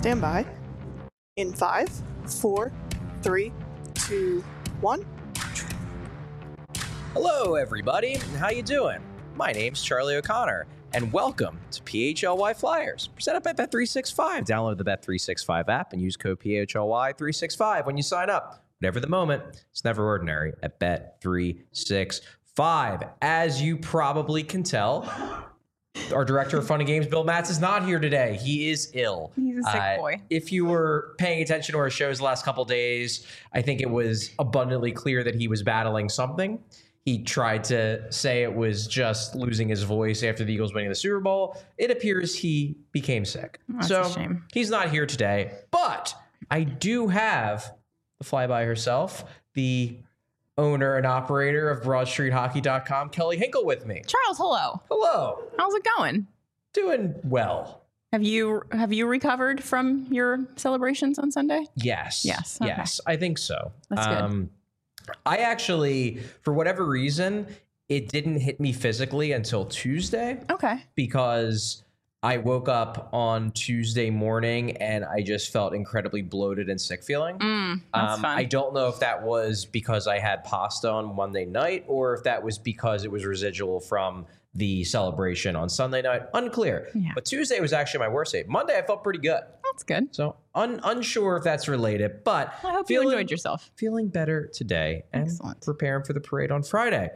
Stand by. In 5, 4, 3, 2, 1. Hello, everybody. How you doing? My name's Charlie O'Connor, and welcome to PHLY Flyers, presented by Bet365. Download the Bet365 app and use code PHLY365 when you sign up. Whatever the moment, it's never ordinary at Bet365. As you probably can tell, our director of fun and games, Bill Matz, is not here today. He is ill. He's a sick boy. If you were paying attention to our shows the last couple days, I think it was abundantly clear that he was battling something. He tried to say it was just losing his voice after the Eagles winning the Super Bowl. It appears he became sick. That's a shame. He's not here today, but I do have the flyby herself, the owner and operator of BroadStreetHockey.com, Kelly Hinkle, with me. Charles, hello. Hello. How's it going? Doing well. Have you recovered from your celebrations on Sunday? Yes. Yes. Okay. Yes, I think so. That's good. I actually, for whatever reason, it didn't hit me physically until Tuesday. Okay. Because I woke up on Tuesday morning and I just felt incredibly bloated and sick feeling. That's fun. I don't know if that was because I had pasta on Monday night or if that was because it was residual from the celebration on Sunday night. Unclear. Yeah. But Tuesday was actually my worst day. Monday, I felt pretty good. That's good. So unsure if that's related, but I hope you enjoyed yourself. Feeling better today and Excellent. preparing for the parade on Friday.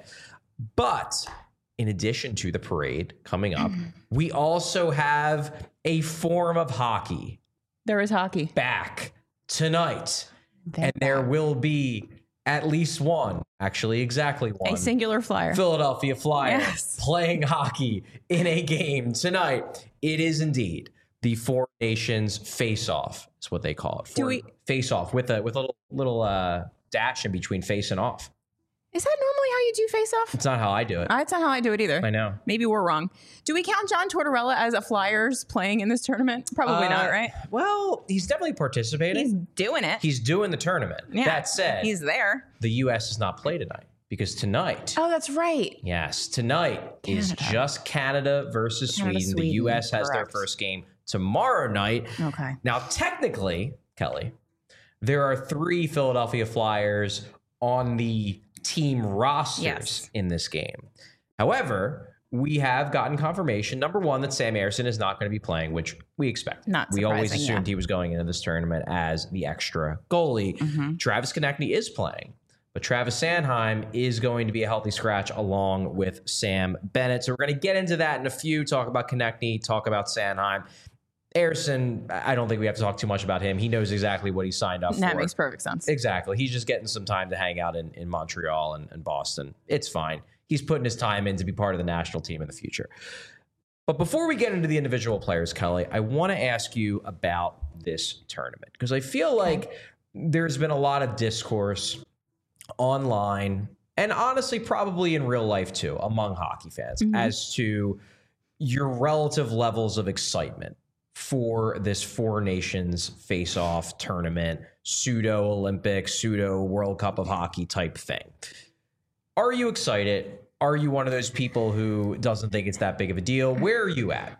But in addition to the parade coming up, we also have a form of hockey There is hockey. back tonight. And there will be at least one, actually exactly one, A singular flyer. Philadelphia Flyers Yes. playing hockey in a game tonight. It is indeed the Four Nations face-off. Is what they call it. Face-off with a little dash in between face and off. Is that normally how you do face-off? It's not how I do it. That's not how I do it either. I know. Maybe we're wrong. Do we count John Tortorella as a Flyers playing in this tournament? Probably not, right? Well, he's definitely participating. He's doing it. He's doing the tournament. Yeah. That said, He's there. the U.S. does not play tonight because tonight, Oh, that's right. yes, tonight is Canada. just Canada versus Canada, Sweden. The Sweden, U.S. has their correct. first game tomorrow night. Okay. Now, technically, Kelly, there are 3 Philadelphia Flyers on the team rosters Yes. in this game. However, we have gotten confirmation, number one, that Sam Ersson is not going to be playing, which we expect. Not We always surprising, assumed yeah. he was going into this tournament as the extra goalie. Mm-hmm. Travis Konechny is playing, but Travis Sanheim is going to be a healthy scratch along with Sam Bennett. So we're going to get into that in a few, talk about Konechny, talk about Sanheim. Ersson, I don't think we have to talk too much about him. He knows exactly what he signed up for. That makes perfect sense. Exactly. He's just getting some time to hang out in Montreal and Boston. It's fine. He's putting his time in to be part of the national team in the future. But before we get into the individual players, Kelly, I want to ask you about this tournament because I feel like there's been a lot of discourse online and honestly probably in real life too among hockey fans as to your relative levels of excitement for this Four Nations face-off tournament, pseudo Olympic, pseudo World Cup of Hockey type thing. Are you excited? Are you one of those people who doesn't think it's that big of a deal? Where are you at?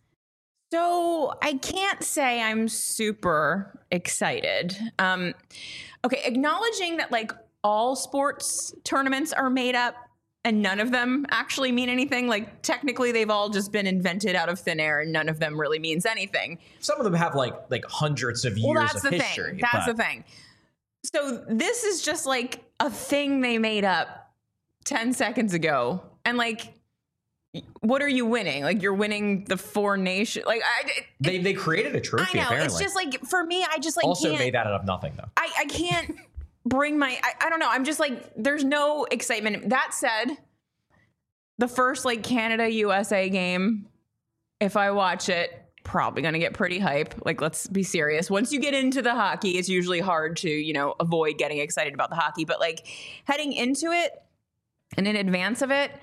So I can't say I'm super excited. Okay, acknowledging that like all sports tournaments are made up and none of them actually mean anything. Like technically they've all just been invented out of thin air and none of them really means anything. Some of them have like hundreds of years Well, that's of the history. thing. That's the thing. So this is just like a thing they made up 10 seconds ago. And like, what are you winning? Like you're winning the Four Nations. Like They created a I trophy, know. apparently. It's just like, for me, I just like also can't. made that out of nothing, though. I can't bring my, I don't know. I'm just like, there's no excitement. That said, the first like Canada USA game, if I watch it, probably going to get pretty hype. Like, let's be serious. Once you get into the hockey, it's usually hard to, you know, avoid getting excited about the hockey. But like heading into it and in advance of it,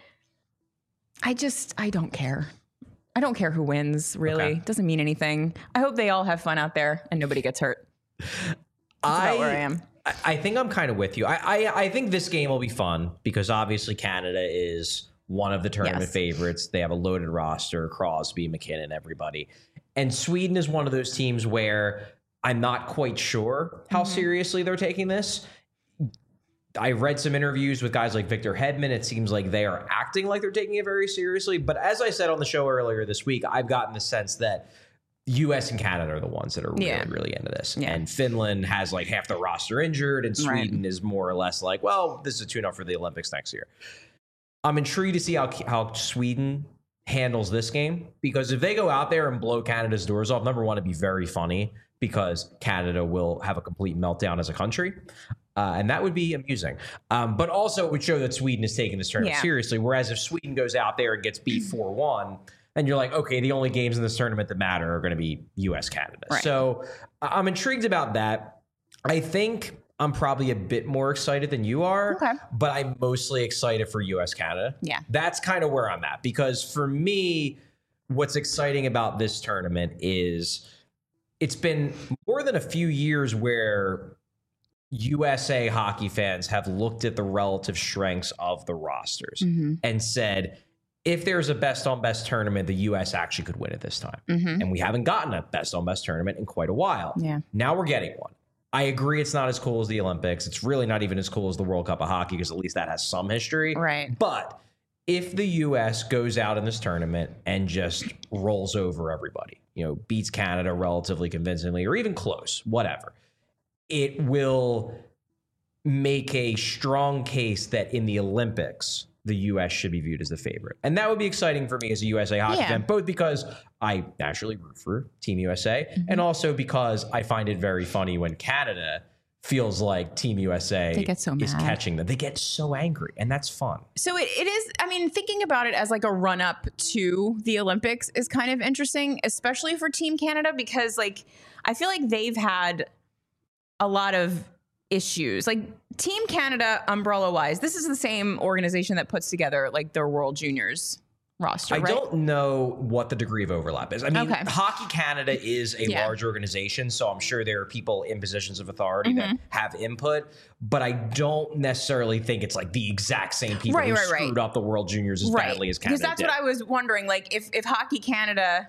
I don't care. I don't care who wins, really. Okay. Doesn't mean anything. I hope they all have fun out there and nobody gets hurt. That's about where I am. I think I'm kind of with you. I think this game will be fun because obviously Canada is one of the tournament Yes. favorites. They have a loaded roster, Crosby, McKinnon, everybody. And Sweden is one of those teams where I'm not quite sure how seriously they're taking this. I read some interviews with guys like Victor Hedman. It seems like they are acting like they're taking it very seriously. But as I said on the show earlier this week, I've gotten the sense that US and Canada are the ones that are really, really into this. Yeah. And Finland has like half the roster injured, and Sweden is more or less like, well, this is a tune-up for the Olympics next year. I'm intrigued to see how Sweden handles this game, because if they go out there and blow Canada's doors off, number one, it'd be very funny because Canada will have a complete meltdown as a country. And that would be amusing. But also it would show that Sweden is taking this tournament seriously. Whereas if Sweden goes out there and gets beat 4-1, then you're like, okay, the only games in this tournament that matter are going to be US-Canada. Right. So I'm intrigued about that. I think I'm probably a bit more excited than you are, but I'm mostly excited for US-Canada. Yeah. That's kind of where I'm at, because for me, what's exciting about this tournament is it's been more than a few years where USA hockey fans have looked at the relative strengths of the rosters and said, if there's a best-on-best tournament, the U.S. actually could win it this time. And we haven't gotten a best-on-best tournament in quite a while. Yeah. Now we're getting one. I agree it's not as cool as the Olympics. It's really not even as cool as the World Cup of Hockey, because at least that has some history. Right. But if the U.S. goes out in this tournament and just rolls over everybody, beats Canada relatively convincingly or even close, whatever, it will make a strong case that in the Olympics, the U.S. should be viewed as the favorite. And that would be exciting for me as a USA hockey fan, both because I naturally root for Team USA and also because I find it very funny when Canada feels like Team USA is catching them. They get so angry, and that's fun. So it is, I mean, thinking about it as like a run up to the Olympics is kind of interesting, especially for Team Canada, because like I feel like they've had a lot of issues. Like Team Canada, umbrella wise, this is the same organization that puts together like their World Juniors roster, right? I don't know what the degree of overlap is. I mean, Hockey Canada is a large organization, so I'm sure there are people in positions of authority that have input, but I don't necessarily think it's like the exact same people who screwed up the World Juniors as badly as Canada Because that's what I was wondering. Like if Hockey Canada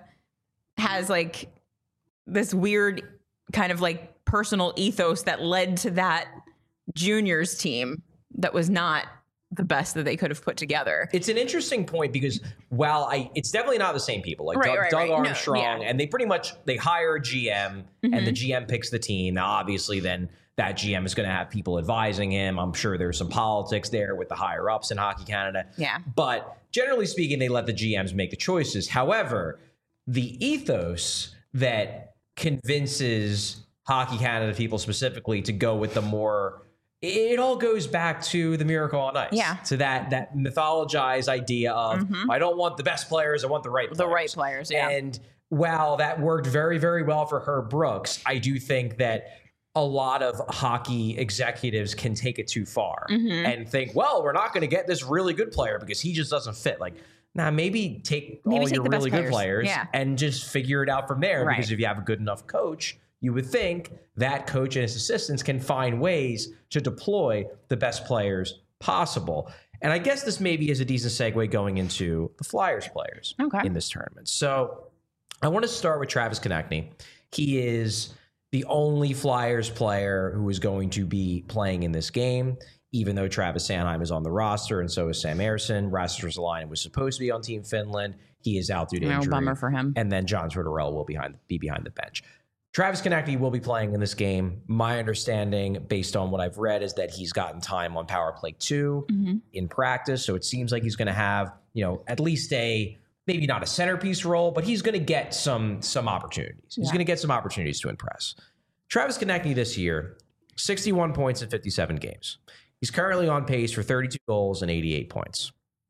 has like this weird kind of like personal ethos that led to that juniors team that was not the best that they could have put together. It's an interesting point because while it's definitely not the same people. Like Doug Armstrong, and they pretty much, they hire a GM and the GM picks the team. Now, obviously, then that GM is going to have people advising him. I'm sure there's some politics there with the higher ups in Hockey Canada. Yeah. But generally speaking, they let the GMs make the choices. However, the ethos that convinces Hockey Canada people specifically to go with the more, it all goes back to the Miracle on Ice. Yeah. To that mythologized idea of, I don't want the best players, I want the right players. The right players, yeah. And while that worked very, very well for Herb Brooks, I do think that a lot of hockey executives can take it too far and think, well, we're not going to get this really good player because he just doesn't fit. Like, nah, maybe take all your really good players and just figure it out from there. Right. Because if you have a good enough coach, you would think that coach and his assistants can find ways to deploy the best players possible. And I guess this maybe is a decent segue going into the Flyers players in this tournament. So I want to start with Travis Konecny. He is the only Flyers player who is going to be playing in this game, even though Travis Sanheim is on the roster and so is Sam Ersson. Rasmus Ristolainen was supposed to be on Team Finland. He is out due to injury. Bummer for him. And then John Tortorella will be behind the bench. Travis Konecny will be playing in this game. My understanding, based on what I've read, is that he's gotten time on Power Play 2 in practice. So it seems like he's going to have, at least maybe not a centerpiece role, but he's going to get some opportunities. He's going to get some opportunities to impress. Travis Konecny this year, 61 points in 57 games. He's currently on pace for 32 goals and 88 points.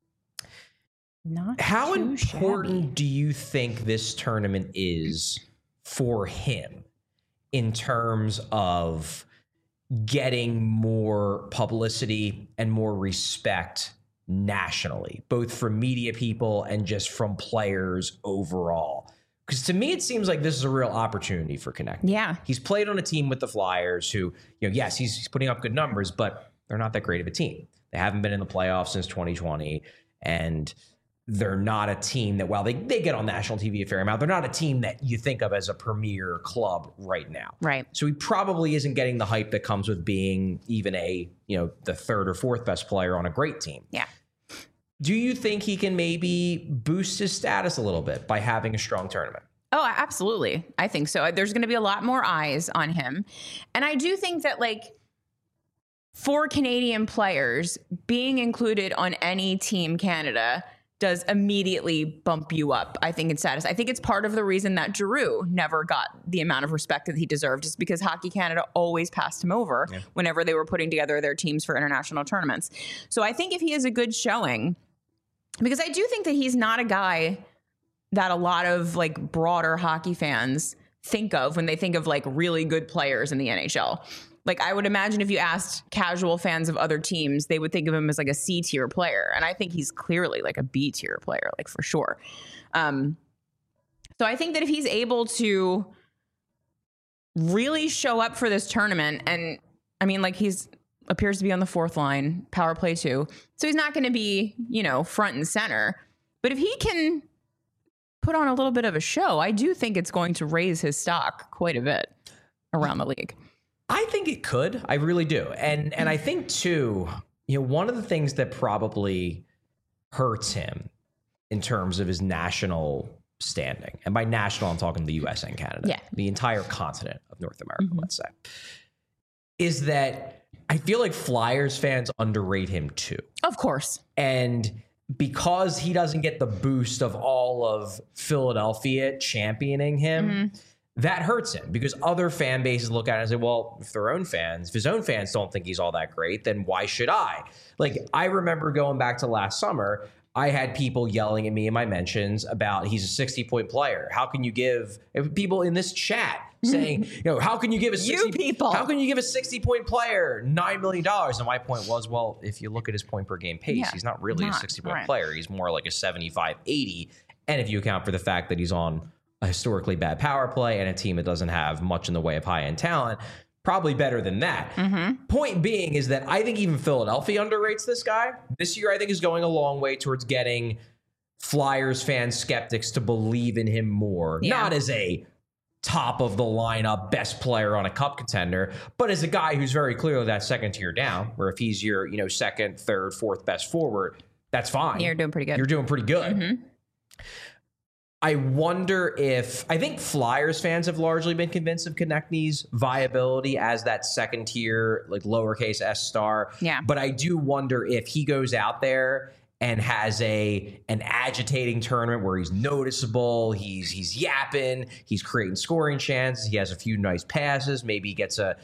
How important do you think this tournament is for him in terms of getting more publicity and more respect nationally, both from media people and just from players overall? Because to me, it seems like this is a real opportunity for Konecny. Yeah. He's played on a team with the Flyers who, yes, he's putting up good numbers, but they're not that great of a team. They haven't been in the playoffs since 2020. And they're not a team that, while they get on national TV a fair amount, they're not a team that you think of as a premier club right now. Right. So he probably isn't getting the hype that comes with being even the third or fourth best player on a great team. Yeah. Do you think he can maybe boost his status a little bit by having a strong tournament? Oh, absolutely. I think so. There's going to be a lot more eyes on him. And I do think that, for Canadian players, being included on any Team Canada does immediately bump you up, I think, in status. I think it's part of the reason that Giroux never got the amount of respect that he deserved, is because Hockey Canada always passed him over whenever they were putting together their teams for international tournaments. So I think if he has a good showing, because I do think that he's not a guy that a lot of broader hockey fans think of when they think of really good players in the NHL. I would imagine if you asked casual fans of other teams, they would think of him as a C tier player. And I think he's clearly a B tier player, for sure. So I think that if he's able to really show up for this tournament, and I mean, he's appears to be on the fourth line, power play too. So he's not going to be, front and center. But if he can put on a little bit of a show, I do think it's going to raise his stock quite a bit around the league. I think it could. I really do. And I think too, one of the things that probably hurts him in terms of his national standing, and by national, I'm talking the US and Canada, the entire continent of North America, let's say, is that I feel like Flyers fans underrate him too. Of course. And because he doesn't get the boost of all of Philadelphia championing him, that hurts him, because other fan bases look at it and say, well, if his own fans don't think he's all that great, then why should I? I remember going back to last summer, I had people yelling at me in my mentions about he's a 60-point player. How can you give people in this chat saying, how can you give a 60-point player $9 million? And my point was, well, if you look at his point per game pace, he's not really a 60-point player. He's more like a 75, 80. And if you account for the fact that he's on a historically bad power play and a team that doesn't have much in the way of high-end talent, probably better than that. Point being is that I think even Philadelphia underrates this guy. This year, I think, is going a long way towards getting Flyers fan skeptics to believe in him more. Not as a top of the lineup best player on a cup contender, but as a guy who's very clearly that second tier down, where if he's your second, third, fourth best forward, that's fine. You're doing pretty good. You're doing pretty good. I wonder if, I think Flyers fans have largely been convinced of Konechny's viability as that second tier, lowercase s star. Yeah. But I do wonder if he goes out there and has an agitating tournament where he's noticeable, he's yapping, he's creating scoring chances, he has a few nice passes, maybe he gets a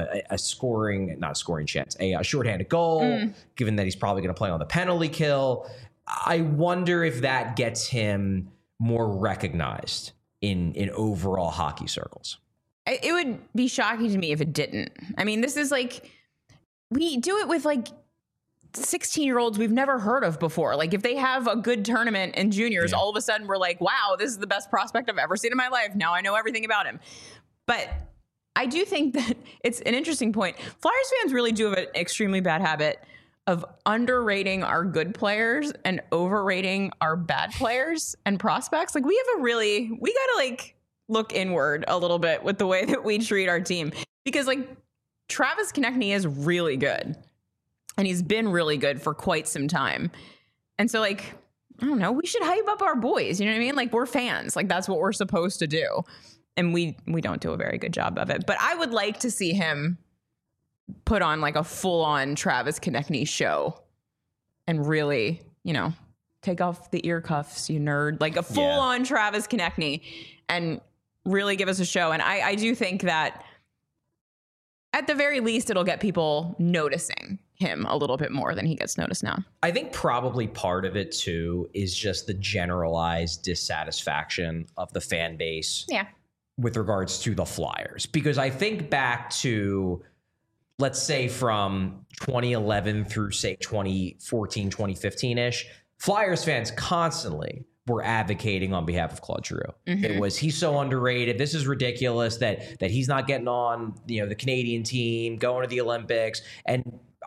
shorthanded goal, given that he's probably going to play on the penalty kill. I wonder if that gets him more recognized in overall hockey circles. It would be shocking to me if it didn't. I mean, this is we do it with 16-year-olds we've never heard of before. If they have a good tournament in juniors, all of a sudden we're like, wow, this is the best prospect I've ever seen in my life. Now I know everything about him. But I do think that it's an interesting point. Flyers fans really do have an extremely bad habit of underrating our good players and overrating our bad players and prospects. We gotta look inward a little bit with the way that we treat our team, because Travis Konechny is really good and he's been really good for quite some time. And so I don't know, we should hype up our boys. You know what I mean? We're fans. That's what we're supposed to do. And we don't do a very good job of it, but I would like to see him put on a full-on Travis Konechny show and really, take off the ear cuffs, you nerd, a full-on Travis Konechny, and really give us a show. And I do think that at the very least, it'll get people noticing him a little bit more than he gets noticed now. I think probably part of it too is just the generalized dissatisfaction of the fan base with regards to the Flyers. Because I think back to, let's say, from 2011 through, say, 2014, 2015-ish, Flyers fans constantly were advocating on behalf of Claude Giroux. It was, he's so underrated. This is ridiculous that he's not getting on, the Canadian team, going to the Olympics. And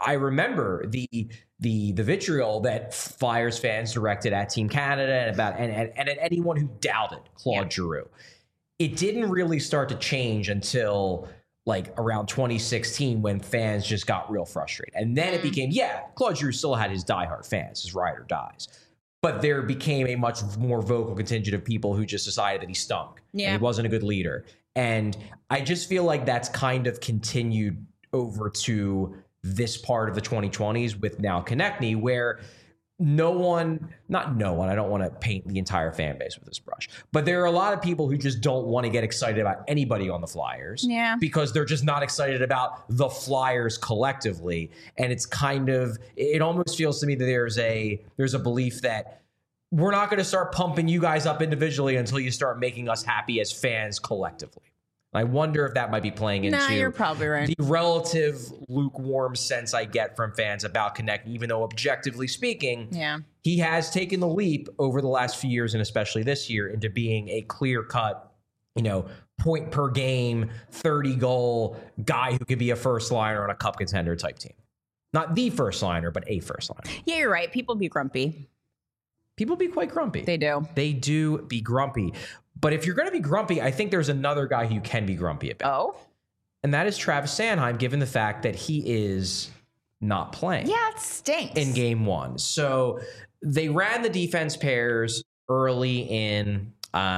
I remember the vitriol that Flyers fans directed at Team Canada and at anyone who doubted Claude Giroux. It didn't really start to change until like around 2016 when fans just got real frustrated. And then it became, Claude Giroux still had his diehard fans, his ride or dies. But there became a much more vocal contingent of people who just decided that he stunk. And he wasn't a good leader. And I just feel like that's kind of continued over to this part of the 2020s with now Konechny, where not no one, I don't want to paint the entire fan base with this brush, but there are a lot of people who just don't want to get excited about anybody on the Flyers because they're just not excited about the Flyers collectively. And it's kind of, it almost feels to me that there's a belief that we're not going to start pumping you guys up individually until you start making us happy as fans collectively. I wonder if that might be playing into you're probably right. The relative lukewarm sense I get from fans about Konechny, even though objectively speaking, he has taken the leap over the last few years and especially this year into being a clear-cut, point per game, 30-goal guy who could be a first liner on a cup contender type team. Not the first liner, but a first liner. Yeah, you're right. People be grumpy. People be quite grumpy. They do. They do be grumpy. But if you're going to be grumpy, I think there's another guy who you can be grumpy about. Oh? And that is Travis Sanheim, given the fact that he is not playing. Yeah, it stinks. In game one. So they ran the defense pairs early in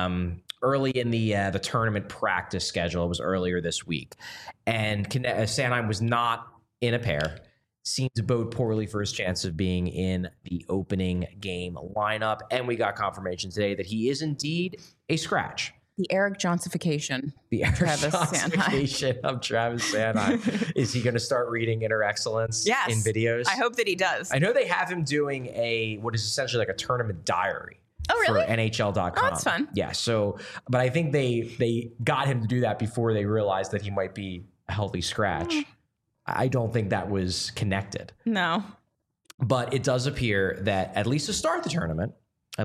the tournament practice schedule. It was earlier this week. And Sanheim was not in a pair. Seemed to bode poorly for his chance of being in the opening game lineup. And we got confirmation today that he is indeed a scratch. The Eric Johnsification. The Eric Johnsification of Travis Sanheim. Is he going to start reading Inner Excellence in videos? I hope that he does. I know they have him doing what is essentially like a tournament diary. Oh, really? For NHL.com. Oh, that's fun. Yeah. So, but I think they got him to do that before they realized that he might be a healthy scratch. I don't think that was connected. No. But it does appear that at least to start the tournament,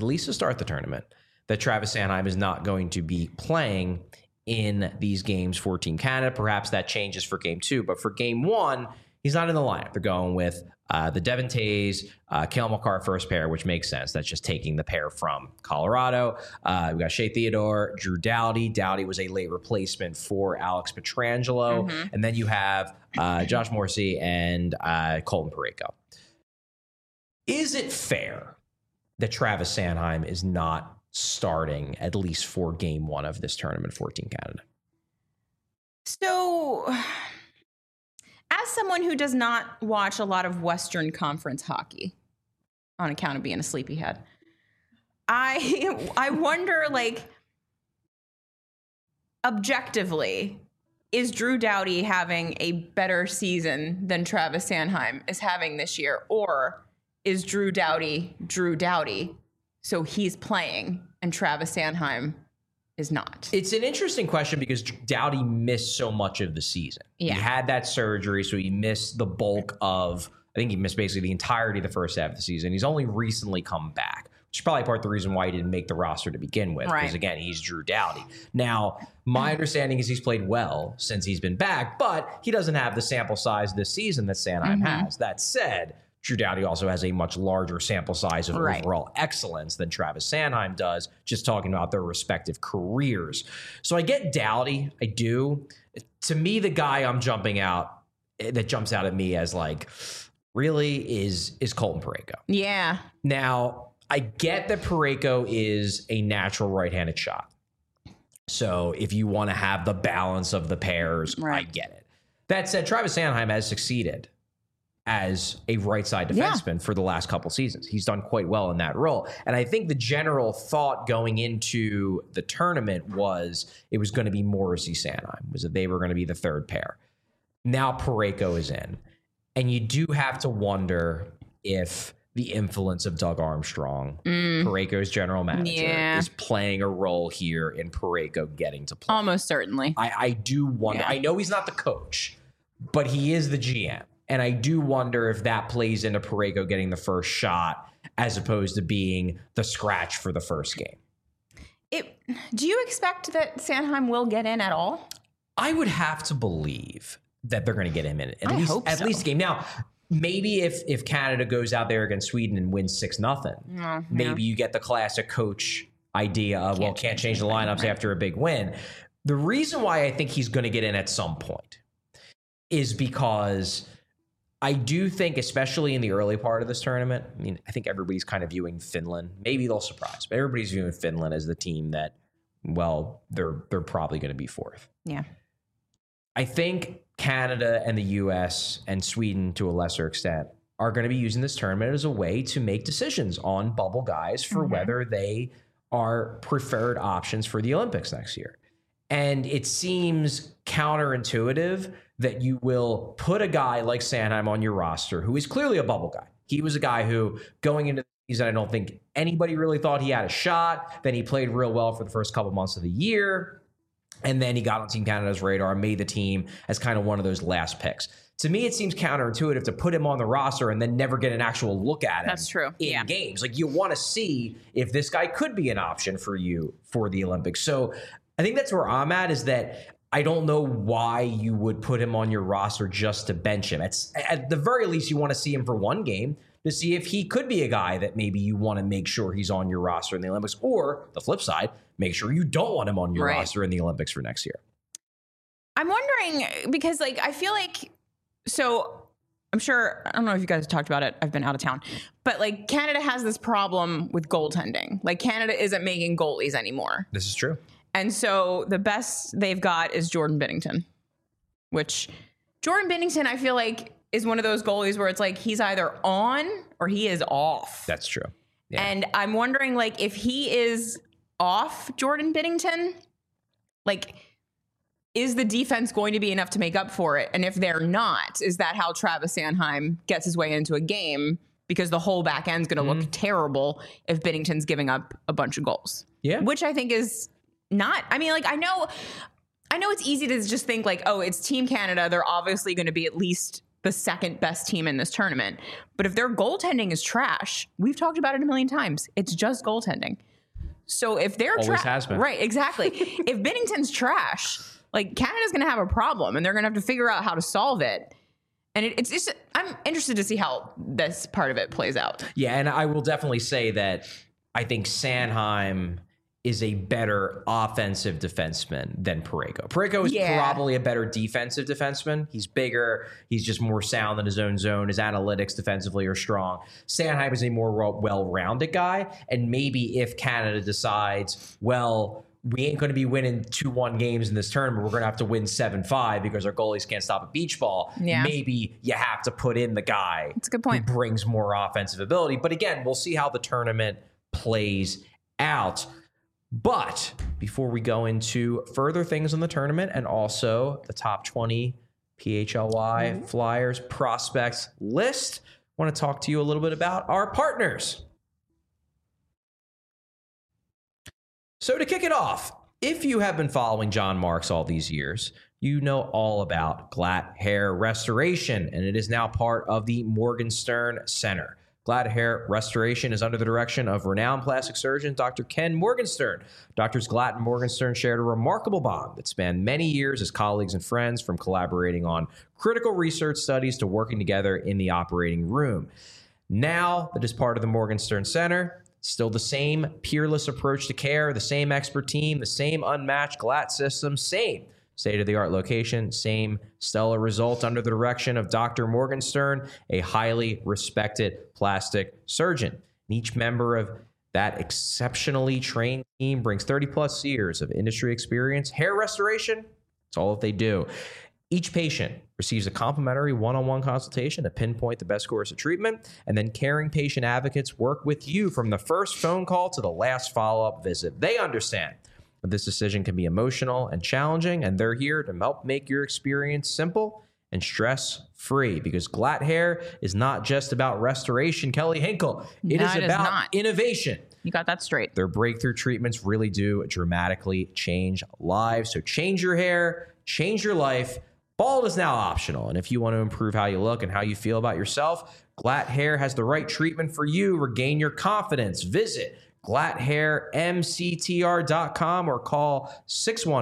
that Travis Sanheim is not going to be playing in these games for Team Canada. Perhaps that changes for game two. But for game one, he's not in the lineup. They're going with the Devon Toews, Cale Makar first pair, which makes sense. That's just taking the pair from Colorado. We've got Shea Theodore, Drew Doughty. Doughty was a late replacement for Alex Pietrangelo. And then you have Josh Morrissey and Colton Parayko. Is it fair that Travis Sanheim is not starting at least for game one of this tournament for Team Canada? So, as someone who does not watch a lot of Western Conference hockey on account of being a sleepyhead, I wonder, like, objectively, is Drew Doughty having a better season than Travis Sanheim is having this year? Or is Drew Doughty, so he's playing and Travis Sanheim is not? It's an interesting question because Doughty missed so much of the season. Yeah. He had that surgery, so he missed the bulk of, I think he missed basically the entirety of the first half of the season. He's only recently come back, which is probably part of the reason why he didn't make the roster to begin with. Right. Because again, he's Drew Doughty. Now, my understanding is he's played well since he's been back, but he doesn't have the sample size this season that Sanheim has. That said, Drew Doughty also has a much larger sample size of overall excellence than Travis Sanheim does, just talking about their respective careers. So I get Doughty. I do. To me, the guy that jumps out at me as like, really is Colton Parayko. Yeah. Now, I get that Parayko is a natural right-handed shot. So if you want to have the balance of the pairs, I get it. That said, Travis Sanheim has succeeded as a right side defenseman for the last couple seasons. He's done quite well in that role. And I think the general thought going into the tournament was it was going to be Morrissey Sanheim, was that they were going to be the third pair. Now Parayko is in. And you do have to wonder if the influence of Doug Armstrong, Parayko's general manager, is playing a role here in Parayko getting to play. Almost certainly. I do wonder. I know he's not the coach, but he is the GM. And I do wonder if that plays into Parayko getting the first shot as opposed to being the scratch for the first game. Do you expect that Sanheim will get in at all? I would have to believe that they're going to get him in at least a game. Now, maybe if Canada goes out there against Sweden and wins 6-0, maybe you get the classic coach idea of, can't change the lineups after a big win. The reason why I think he's going to get in at some point is because I do think, especially in the early part of this tournament, I mean, I think everybody's kind of viewing Finland. Maybe they'll surprise, but everybody's viewing Finland as the team that, well, they're probably going to be fourth. Yeah. I think Canada and the U.S. and Sweden, to a lesser extent, are going to be using this tournament as a way to make decisions on bubble guys for whether they are preferred options for the Olympics next year. And it seems counterintuitive that you will put a guy like Sanheim on your roster, who is clearly a bubble guy. He was a guy who, going into the season, I don't think anybody really thought he had a shot. Then he played real well for the first couple months of the year. And then he got on Team Canada's radar and made the team as kind of one of those last picks. To me, it seems counterintuitive to put him on the roster and then never get an actual look at him. That's true. In games. Like, you want to see if this guy could be an option for you for the Olympics. So I think that's where I'm at, is that I don't know why you would put him on your roster just to bench him. At the very least, you want to see him for one game to see if he could be a guy that maybe you want to make sure he's on your roster in the Olympics, or the flip side, make sure you don't want him on your roster in the Olympics for next year. I'm wondering, because like, I feel like, so I'm sure, I don't know if you guys talked about it, I've been out of town, but like Canada has this problem with goaltending. Like, Canada isn't making goalies anymore. This is true. And so the best they've got is Jordan Binnington, which Jordan Binnington, I feel like, is one of those goalies where it's like he's either on or he is off. That's true. Yeah. And I'm wondering, like, if he is off Jordan Binnington, like, is the defense going to be enough to make up for it? And if they're not, is that how Travis Sanheim gets his way into a game? Because the whole back end's going to look terrible if Binnington's giving up a bunch of goals. Yeah. Which I think is not, I mean, like, I know it's easy to just think like, oh, it's Team Canada. They're obviously going to be at least the second best team in this tournament. But if their goaltending is trash, we've talked about it a million times. It's just goaltending. So if they're always has been. Right, exactly. If Binnington's trash, like, Canada's going to have a problem, and they're going to have to figure out how to solve it. And it's just, I'm interested to see how this part of it plays out. Yeah, and I will definitely say that I think Sanheim is a better offensive defenseman than Parayko. Parayko is probably a better defensive defenseman. He's bigger. He's just more sound in his own zone. His analytics defensively are strong. Sanheim is a more well-rounded guy. And maybe if Canada decides, well, we ain't going to be winning 2-1 games in this tournament, we're going to have to win 7-5 because our goalies can't stop a beach ball. Yeah. Maybe you have to put in the guy That's a good point. who brings more offensive ability. But again, we'll see how the tournament plays out. But before we go into further things in the tournament and also the top 20 PHLY Flyers prospects list, I want to talk to you a little bit about our partners. So to kick it off, if you have been following John Marks all these years, you know all about Glatt Hair Restoration, and it is now part of the Morgenstern Center. Glatt Hair Restoration is under the direction of renowned plastic surgeon Dr. Ken Morgenstern. Doctors Glatt and Morgenstern shared a remarkable bond that spanned many years as colleagues and friends, from collaborating on critical research studies to working together in the operating room. Now that is part of the Morgenstern Center, still the same peerless approach to care, the same expert team, the same unmatched Glatt system, same state-of-the-art location, same stellar result under the direction of Dr. Morgenstern, a highly respected plastic surgeon. And each member of that exceptionally trained team brings 30-plus years of industry experience. Hair restoration, it's all that they do. Each patient receives a complimentary one-on-one consultation to pinpoint the best course of treatment, and then caring patient advocates work with you from the first phone call to the last follow-up visit. They understand that this decision can be emotional and challenging, and they're here to help make your experience simple and stress-free, because Glatt Hair is not just about restoration, Kelly Hinkle. It is about innovation. You got that straight. Their breakthrough treatments really do dramatically change lives. So change your hair, change your life. Bald is now optional, and if you want to improve how you look and how you feel about yourself, Glatt Hair has the right treatment for you. Regain your confidence. Visit GlattHairMCTR.com or call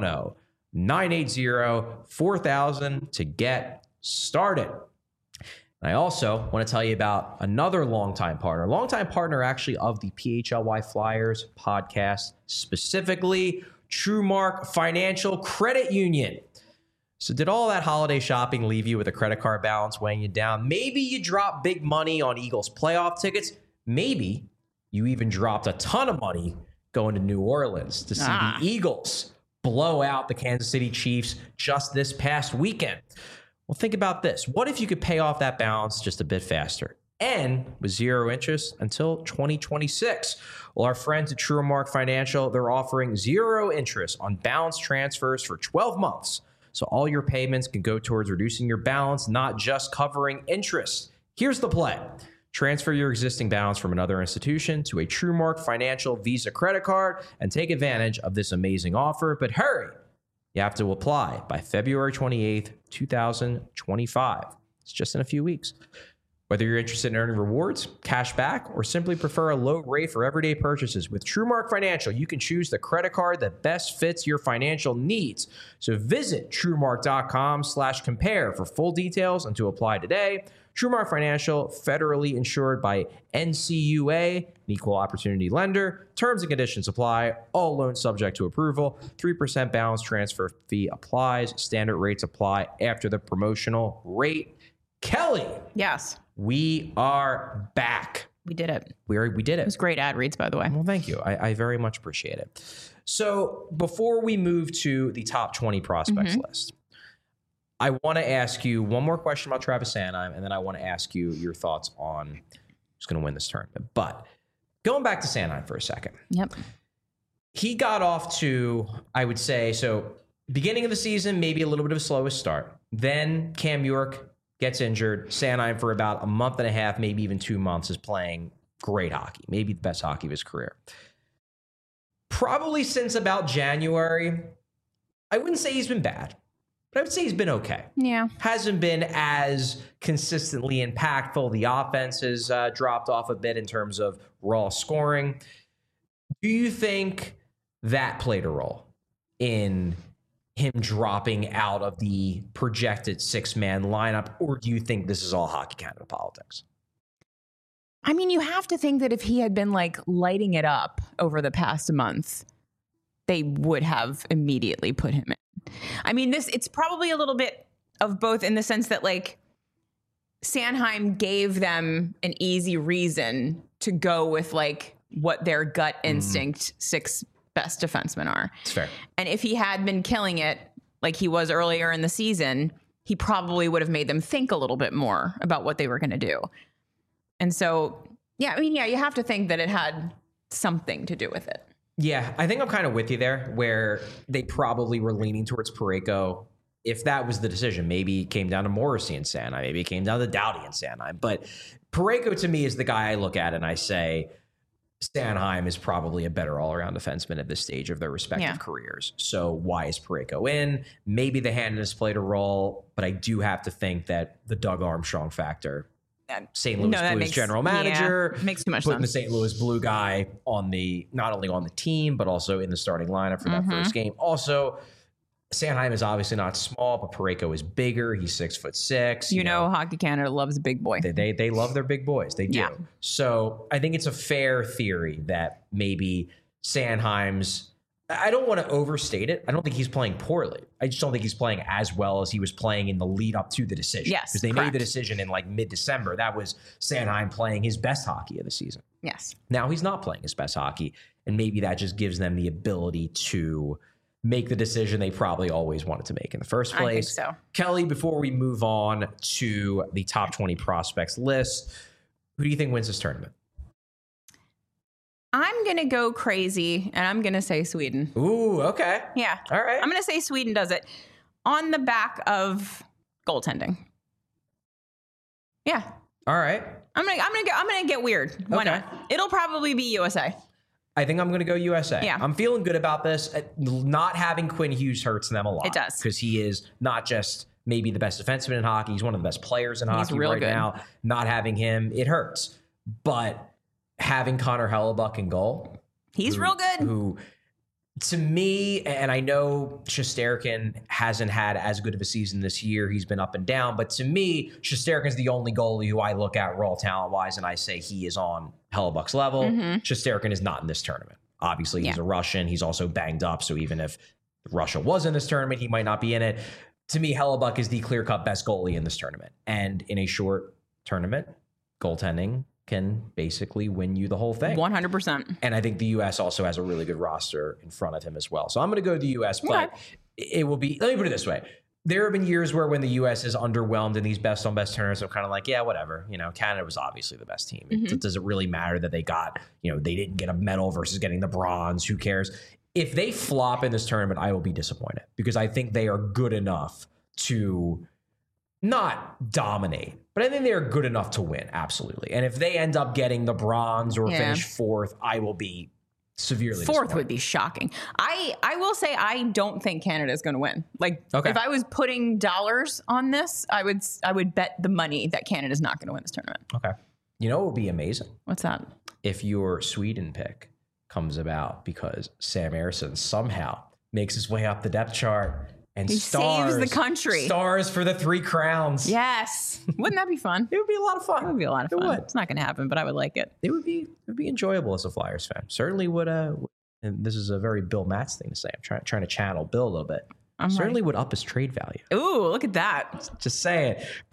610-980-4000 to get started. And I also want to tell you about another longtime partner actually of the PHLY Flyers podcast, specifically TrueMark Financial Credit Union. So did all that holiday shopping leave you with a credit card balance weighing you down? Maybe you dropped big money on Eagles playoff tickets. Maybe you even dropped a ton of money going to New Orleans to see the Eagles blow out the Kansas City Chiefs just this past weekend. Well, think about this. What if you could pay off that balance just a bit faster and with zero interest until 2026? Well, our friends at TrueMark Financial, they're offering zero interest on balance transfers for 12 months. So all your payments can go towards reducing your balance, not just covering interest. Here's the play. Transfer your existing balance from another institution to a TrueMark Financial Visa credit card and take advantage of this amazing offer. But hurry. You have to apply by February 28th, 2025. It's just in a few weeks. Whether you're interested in earning rewards, cash back, or simply prefer a low rate for everyday purchases, with TrueMark Financial, you can choose the credit card that best fits your financial needs. So visit TrueMark.com/compare for full details and to apply today. TrueMark Financial, federally insured by NCUA, an equal opportunity lender. Terms and conditions apply. All loans subject to approval. 3% balance transfer fee applies. Standard rates apply after the promotional rate. Kelly. Yes. We are back. We did it. We did it. It was great ad reads, by the way. Well, thank you. I very much appreciate it. So before we move to the top 20 prospects list, I want to ask you one more question about Travis Sanheim, and then I want to ask you your thoughts on who's going to win this tournament. But going back to Sanheim for a second. Yep. He got off to, I would say, so beginning of the season, maybe a little bit of a slowest start. Then Cam York gets injured. Sanheim for about a month and a half, maybe even 2 months, is playing great hockey, maybe the best hockey of his career. Probably since about January, I wouldn't say he's been bad, but I would say he's been okay. Yeah. Hasn't been as consistently impactful. The offense has dropped off a bit in terms of raw scoring. Do you think that played a role in him dropping out of the projected 6-man lineup, or do you think this is all Hockey Canada politics? I mean, you have to think that if he had been like lighting it up over the past month, they would have immediately put him in. I mean, it's probably a little bit of both in the sense that like Sanheim gave them an easy reason to go with like what their gut instinct 6 best defensemen are. It's fair. And if he had been killing it like he was earlier in the season, he probably would have made them think a little bit more about what they were going to do. And so, yeah, I mean, yeah, you have to think that it had something to do with it. Yeah, I think I'm kind of with you there, where they probably were leaning towards Parayko. If that was the decision, maybe it came down to Morrissey and Sanheim, maybe it came down to Doughty and Sanheim. But Parayko to me is the guy I look at and I say, Sanheim is probably a better all-around defenseman at this stage of their respective careers. So why is Parayko in? Maybe the handedness played a role, but I do have to think that the Doug Armstrong factor, St. Louis Blues general manager, makes too much putting sense. the St. Louis Blue guy on not only on the team, but also in the starting lineup for that first game. Also, Sanheim is obviously not small, but Parayko is bigger. He's 6'6". You know, Hockey Canada loves a big boy. They love their big boys. They do. Yeah. So I think it's a fair theory that maybe Sanheim's, I don't want to overstate it. I don't think he's playing poorly. I just don't think he's playing as well as he was playing in the lead up to the decision. Yes, because they made the decision in like mid-December. That was Sanheim playing his best hockey of the season. Yes. Now he's not playing his best hockey, and maybe that just gives them the ability to make the decision they probably always wanted to make in the first place. I think so. Kelly, before we move on to the top 20 prospects list, who do you think wins this tournament? I'm going to go crazy, and I'm going to say Sweden. Ooh, okay. Yeah. All right. I'm going to say Sweden does it on the back of goaltending. Yeah. All right. I'm gonna get weird. Why Okay. not? It'll probably be USA. I think I'm going to go USA. Yeah. I'm feeling good about this. Not having Quinn Hughes hurts them a lot. It does. Because he is not just maybe the best defenseman in hockey. He's one of the best players in hockey real right good. now. Not having him, it hurts. But having Connor Hellebuck in goal. He's real good. Who To me, and I know Shesterkin hasn't had as good of a season this year. He's been up and down. But to me, Shesterkin's the only goalie who I look at raw talent-wise, and I say he is on Hellebuck's level. Shesterkin is not in this tournament. Obviously, he's a Russian. He's also banged up. So even if Russia was in this tournament, he might not be in it. To me, Hellebuck is the clear-cut best goalie in this tournament. And in a short tournament, goaltending can basically win you the whole thing. 100%. And I think the U.S. also has a really good roster in front of him as well. So I'm going to go to the U.S., but it will be, let me put it this way. There have been years where when the U.S. is underwhelmed in these best on best tournaments, I'm kind of like, yeah, whatever. You know, Canada was obviously the best team. It doesn't really matter that they got, you know, they didn't get a medal versus getting the bronze. Who cares? If they flop in this tournament, I will be disappointed because I think they are good enough to not dominate, but I think they are good enough to win. Absolutely. And if they end up getting the bronze or finish fourth, I will be severely fourth would be shocking. I will say I don't think Canada is going to win. Like if I was putting dollars on this, I would bet the money that Canada is not going to win this tournament. Okay. You know what would be amazing? What's that? If your Sweden pick comes about because Sam Ersson somehow makes his way up the depth chart and he saves the country. Stars for the 3 crowns. Yes. Wouldn't that be fun? It would be a lot of fun. It would be a lot of fun. It's not going to happen, but I would like it. It would be enjoyable as a Flyers fan. Certainly would. And this is a very Bill Matz thing to say. I'm trying to channel Bill a little bit. Certainly would up his trade value. Ooh, look at that. Just saying.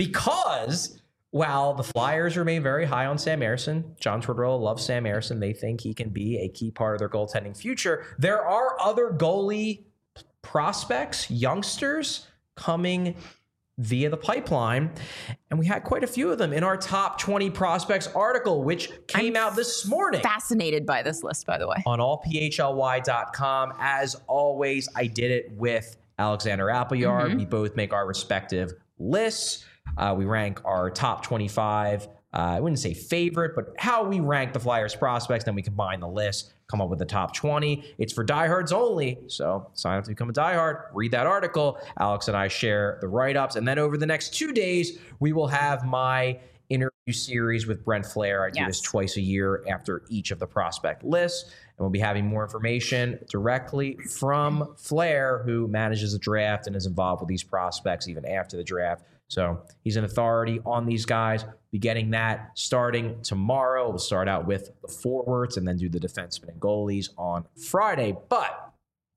Because while the Flyers remain very high on Sam Ersson, John Tortorella loves Sam Ersson. They think he can be a key part of their goaltending future. There are other goalie prospects, youngsters coming via the pipeline. And we had quite a few of them in our top 20 prospects article, which came out this morning. Fascinated by this list, by the way. On allphly.com. As always, I did it with Alexander Appleyard. We both make our respective lists. We rank our top 25. I wouldn't say favorite, but how we rank the Flyers prospects. Then we combine the list, come up with the top 20. It's for diehards only. So sign up to become a diehard, read that article. Alex and I share the write-ups. And then over the next 2 days, we will have my interview series with Brent Flair. I do this twice a year after each of the prospect lists. And we'll be having more information directly from Flair, who manages the draft and is involved with these prospects even after the draft. So he's an authority on these guys. Be getting that starting tomorrow. We'll start out with the forwards and then do the defensemen and goalies on Friday. But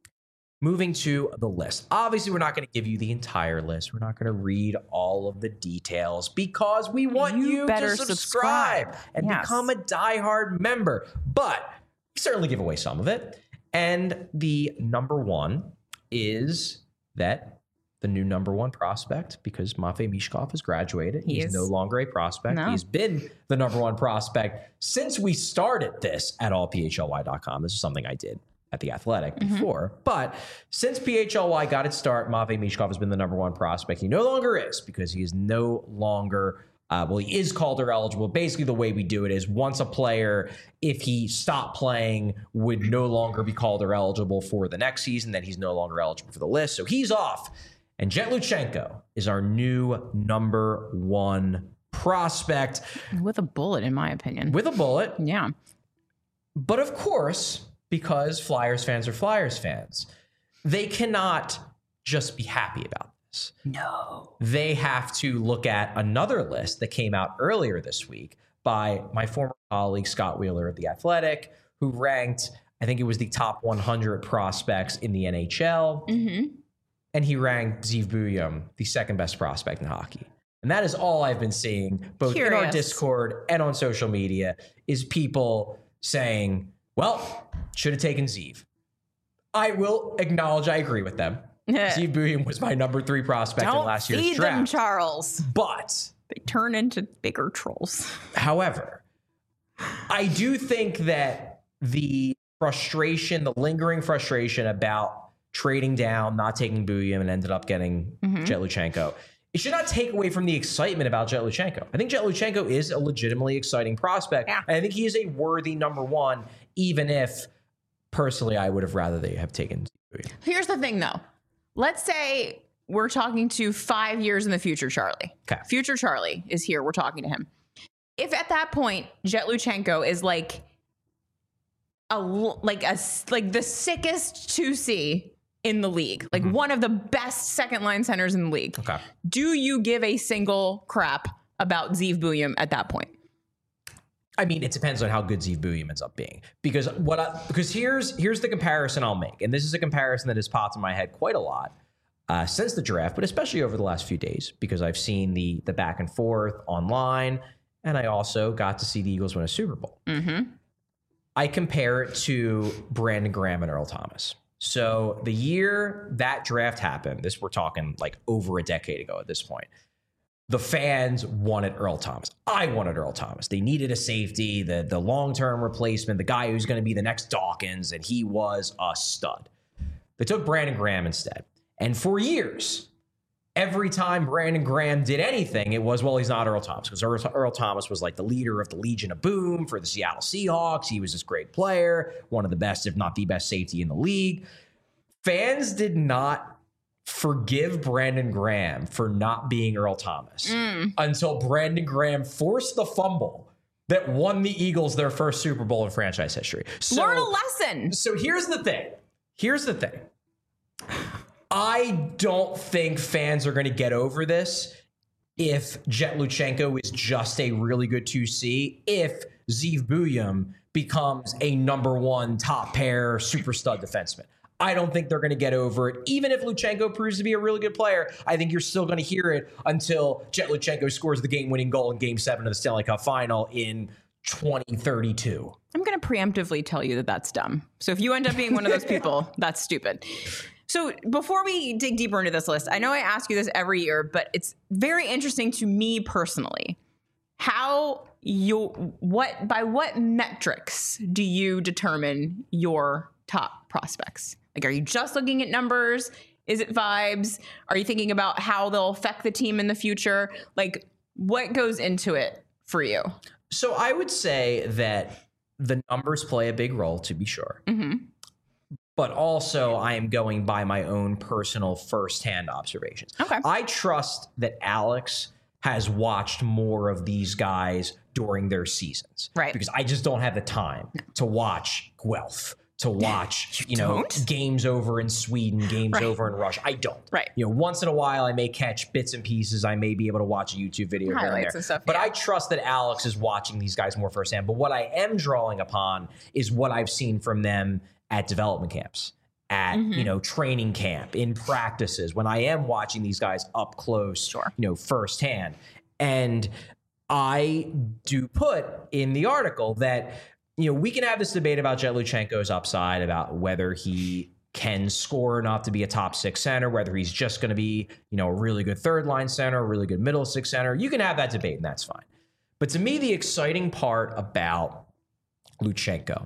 moving to the list. Obviously, we're not going to give you the entire list. We're not going to read all of the details because we want you to subscribe and become a diehard member. But we certainly give away some of it. And the number one is that the new number one prospect, because Matvei Michkov has graduated. He's no longer a prospect. No. He's been the number one prospect since we started this at allphly.com. This is something I did at The Athletic before. But since PHLY got its start, Matvei Michkov has been the number one prospect. He no longer is because he is no longer he is Calder eligible. Basically, the way we do it is once a player, if he stopped playing, would no longer be Calder eligible for the next season, then he's no longer eligible for the list. So he's off. And Jet Luchenko is our new number one prospect. With a bullet, in my opinion. With a bullet. Yeah. But of course, because Flyers fans are Flyers fans, they cannot just be happy about this. No. They have to look at another list that came out earlier this week by my former colleague, Scott Wheeler of The Athletic, who ranked, I think it was the top 100 prospects in the NHL. And he ranked Zeev Buium the second best prospect in hockey. And that is all I've been seeing, both in our Discord and on social media, is people saying, well, should have taken Zeev. I will acknowledge I agree with them. Zeev Buium was my number 3 prospect in last year's draft. Don't feed them, Charles. But they turn into bigger trolls. However, I do think that the frustration, the lingering frustration about trading down, not taking Buium, and ended up getting Jet Luchenko, it should not take away from the excitement about Jet Luchenko. I think Jet Luchenko is a legitimately exciting prospect. And I think he is a worthy number one, even if, personally, I would have rather they have taken Buium. Here's the thing, though. Let's say we're talking to 5 years in the future, Charlie. Okay. Future Charlie is here. We're talking to him. If at that point, Jet Luchenko is like like the sickest 2C in the league, like one of the best second line centers in the league. Okay. Do you give a single crap about Zeev Buium at that point? I mean, it depends on how good Zeev Buium ends up being. Because here's the comparison I'll make, and this is a comparison that has popped in my head quite a lot since the draft, but especially over the last few days, because I've seen the back and forth online, and I also got to see the Eagles win a Super Bowl. Mm-hmm. I compare it to Brandon Graham and Earl Thomas. So the year that draft happened, we're talking like over a decade ago at this point, the fans wanted Earl Thomas. I wanted Earl Thomas. They needed a safety, the long-term replacement, the guy who's going to be the next Dawkins, and he was a stud. They took Brandon Graham instead. And for years, every time Brandon Graham did anything, it was, well, he's not Earl Thomas, because Earl Thomas was like the leader of the Legion of Boom for the Seattle Seahawks. He was this great player, one of the best, if not the best safety in the league. Fans did not forgive Brandon Graham for not being Earl Thomas until Brandon Graham forced the fumble that won the Eagles their first Super Bowl in franchise history. So, learn a lesson. So here's the thing. I don't think fans are going to get over this if Jet Luchenko is just a really good 2C, if Zeev Buium becomes a number one top pair super stud defenseman. I don't think they're going to get over it. Even if Luchenko proves to be a really good player, I think you're still going to hear it until Jet Luchenko scores the game-winning goal in Game 7 of the Stanley Cup Final in 2032. I'm going to preemptively tell you that that's dumb. So if you end up being one of those people, that's stupid. So before we dig deeper into this list, I know I ask you this every year, but it's very interesting to me personally. By what metrics do you determine your top prospects? Like, are you just looking at numbers? Is it vibes? Are you thinking about how they'll affect the team in the future? Like, what goes into it for you? So I would say that the numbers play a big role, to be sure. Mm-hmm. But also I am going by my own personal firsthand observations. Okay. I trust that Alex has watched more of these guys during their seasons. Right. Because I just don't have the time to watch Guelph, to watch, games over in Sweden, games over in Russia. I don't. Right. Once in a while I may catch bits and pieces. I may be able to watch a YouTube video here and there. And stuff, but I trust that Alex is watching these guys more firsthand. But what I am drawing upon is what I've seen from them at development camps, at training camp, in practices, when I am watching these guys up close, firsthand. And I do put in the article that we can have this debate about Jet Luchenko's upside, about whether he can score enough to be a top six center, whether he's just going to be a really good third line center, a really good middle six center. You can have that debate, and that's fine. But to me, the exciting part about Luchenko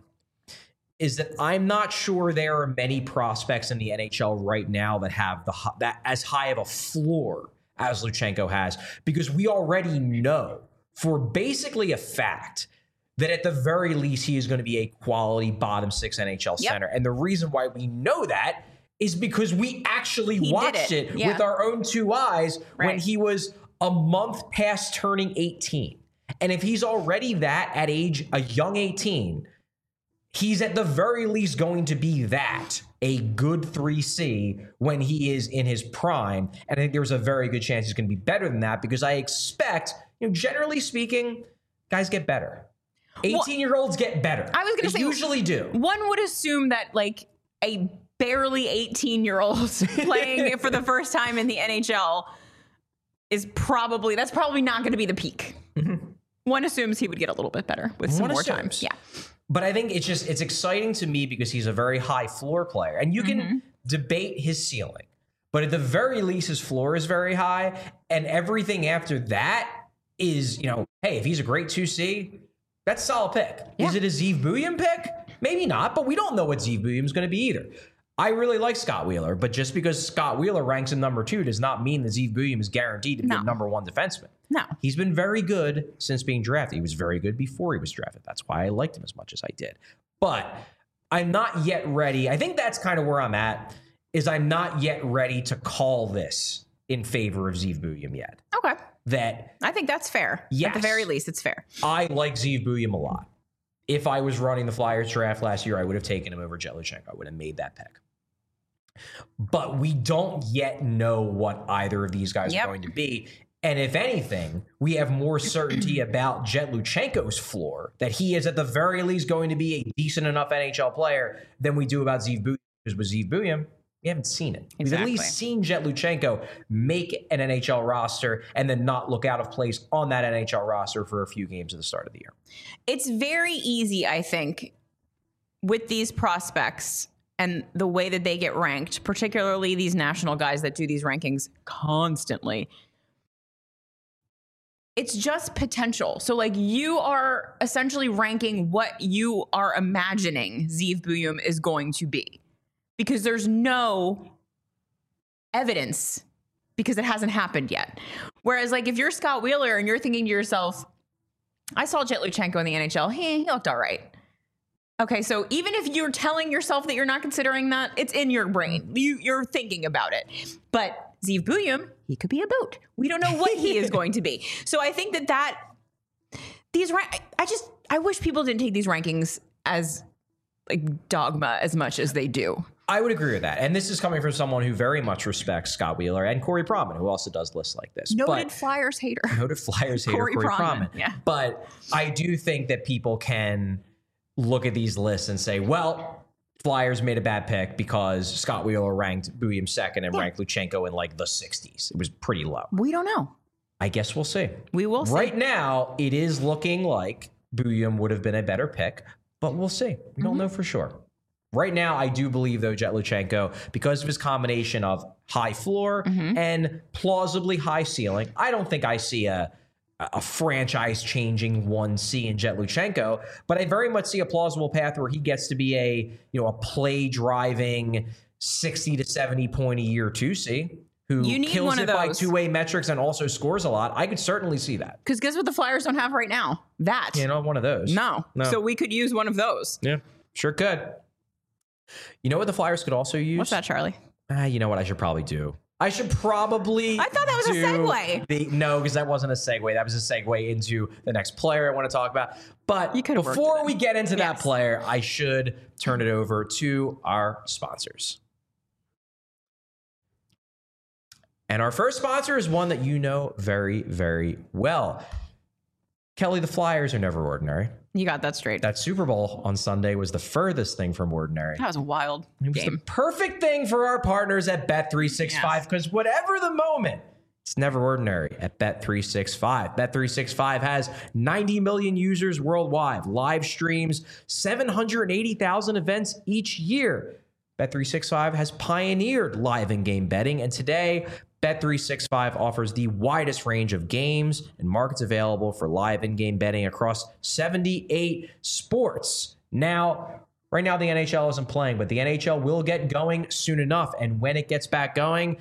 is that I'm not sure there are many prospects in the NHL right now that have that as high of a floor as Luchenko has, because we already know for basically a fact that at the very least he is going to be a quality bottom six NHL center. And the reason why we know that is because we actually watched it with our own two eyes when he was a month past turning 18. And if he's already that at a young 18, he's at the very least going to be a good 3C when he is in his prime. And I think there's a very good chance he's going to be better than that, because I expect, generally speaking, guys get better. 18-year-olds get better. I was going to say, usually do. One would assume that like a barely 18-year-old playing for the first time in the NHL that's probably not going to be the peak. Mm-hmm. One assumes he would get a little bit better with some more time. Yeah. But I think it's exciting to me because he's a very high floor player, and you can debate his ceiling, but at the very least, his floor is very high, and everything after that is, hey, if he's a great 2C, that's a solid pick. Yeah. Is it a Zeev Buium pick? Maybe not, but we don't know what Zeev Buium is going to be either. I really like Scott Wheeler, but just because Scott Wheeler ranks in number 2 does not mean that Zeev Buium is guaranteed to be a number 1 defenseman. No. He's been very good since being drafted. He was very good before he was drafted. That's why I liked him as much as I did. But I'm not yet ready. I think that's kind of where I'm at, is I'm not yet ready to call this in favor of Zeev Buium yet. Okay. I think that's fair. Yes. At the very least, it's fair. I like Zeev Buium a lot. if I was running the Flyers draft last year, I would have taken him over Jet Luchenko. I would have made that pick. But we don't yet know what either of these guys are going to be. And if anything, we have more certainty about Jet Luchenko's floor, that he is at the very least going to be a decent enough NHL player, than we do about Zeev Buium. Because with Zeev Buium, we haven't seen it. We've at least seen Jet Luchenko make an NHL roster and then not look out of place on that NHL roster for a few games at the start of the year. It's very easy, I think, with these prospects and the way that they get ranked, particularly these national guys that do these rankings constantly. It's just potential. So, like, you are essentially ranking what you are imagining Zeev Buium is going to be, because there's no evidence, because it hasn't happened yet. Whereas, like, if you're Scott Wheeler and you're thinking to yourself, I saw Jet Luchenko in the NHL, he looked all right. Okay, so even if you're telling yourself that you're not considering that, it's in your brain. You're thinking about it. But Zeev Buium, he could be a boat. We don't know what he is going to be. So I think that I wish people didn't take these rankings as like dogma as much as they do. I would agree with that. And this is coming from someone who very much respects Scott Wheeler and Corey Pronman, who also does lists like this. Noted Flyers hater. Noted Flyers hater, Corey Pronman. Yeah. But I do think that people can look at these lists and say, well, Flyers made a bad pick because Scott Wheeler ranked Buium second and ranked Luchenko in like the 60s. It was pretty low. We don't know. I guess we'll see. We will see. Right now, it is looking like Buium would have been a better pick, but we'll see. We don't know for sure. Right now, I do believe, though, Jet Luchenko, because of his combination of high floor and plausibly high ceiling, I don't think I see a franchise-changing 1C in Jet Luchenko, but I very much see a plausible path where he gets to be a play-driving 60 to 70 point a year 2C who kills it by two-way metrics and also scores a lot. I could certainly see that. Because guess what the Flyers don't have right now? That. One of those. No. So we could use one of those. Yeah, sure could. You know what the Flyers could also use? What's that, Charlie? You know what I should probably do? I should probably. I thought that was a segue. No, because that wasn't a segue. That was a segue into the next player I want to talk about. But before we get into that player, I should turn it over to our sponsors. And our first sponsor is one that you know very, very well. Kelly, the Flyers are never ordinary. You got that straight. That Super Bowl on Sunday was the furthest thing from ordinary. That was a wild game. It was the perfect thing for our partners at Bet365, because whatever the moment, it's never ordinary at Bet365. Bet365 has 90 million users worldwide, live streams, 780,000 events each year. Bet365 has pioneered live in-game betting, and today, Bet365 offers the widest range of games and markets available for live in-game betting across 78 sports. Right now the NHL isn't playing, but the NHL will get going soon enough. And when it gets back going,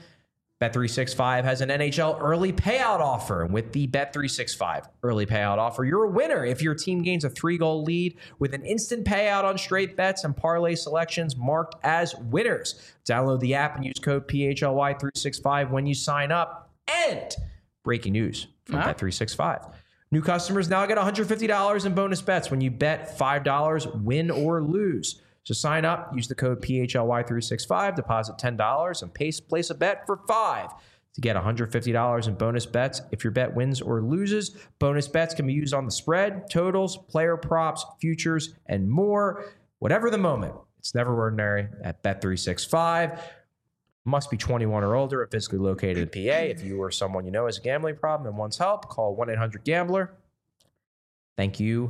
Bet365 has an NHL early payout offer. And with the Bet365 early payout offer, you're a winner if your team gains a 3-goal lead with an instant payout on straight bets and parlay selections marked as winners. Download the app and use code PHLY365 when you sign up. And breaking news from Bet365. New customers now get $150 in bonus bets when you bet $5, win or lose. So sign up, use the code PHLY365, deposit $10, and place a bet for $5 to get $150 in bonus bets. If your bet wins or loses, bonus bets can be used on the spread, totals, player props, futures, and more. Whatever the moment, it's never ordinary at Bet365. Must be 21 or older and physically located in PA. If you or someone you know has a gambling problem and wants help, call 1-800-GAMBLER. Thank you,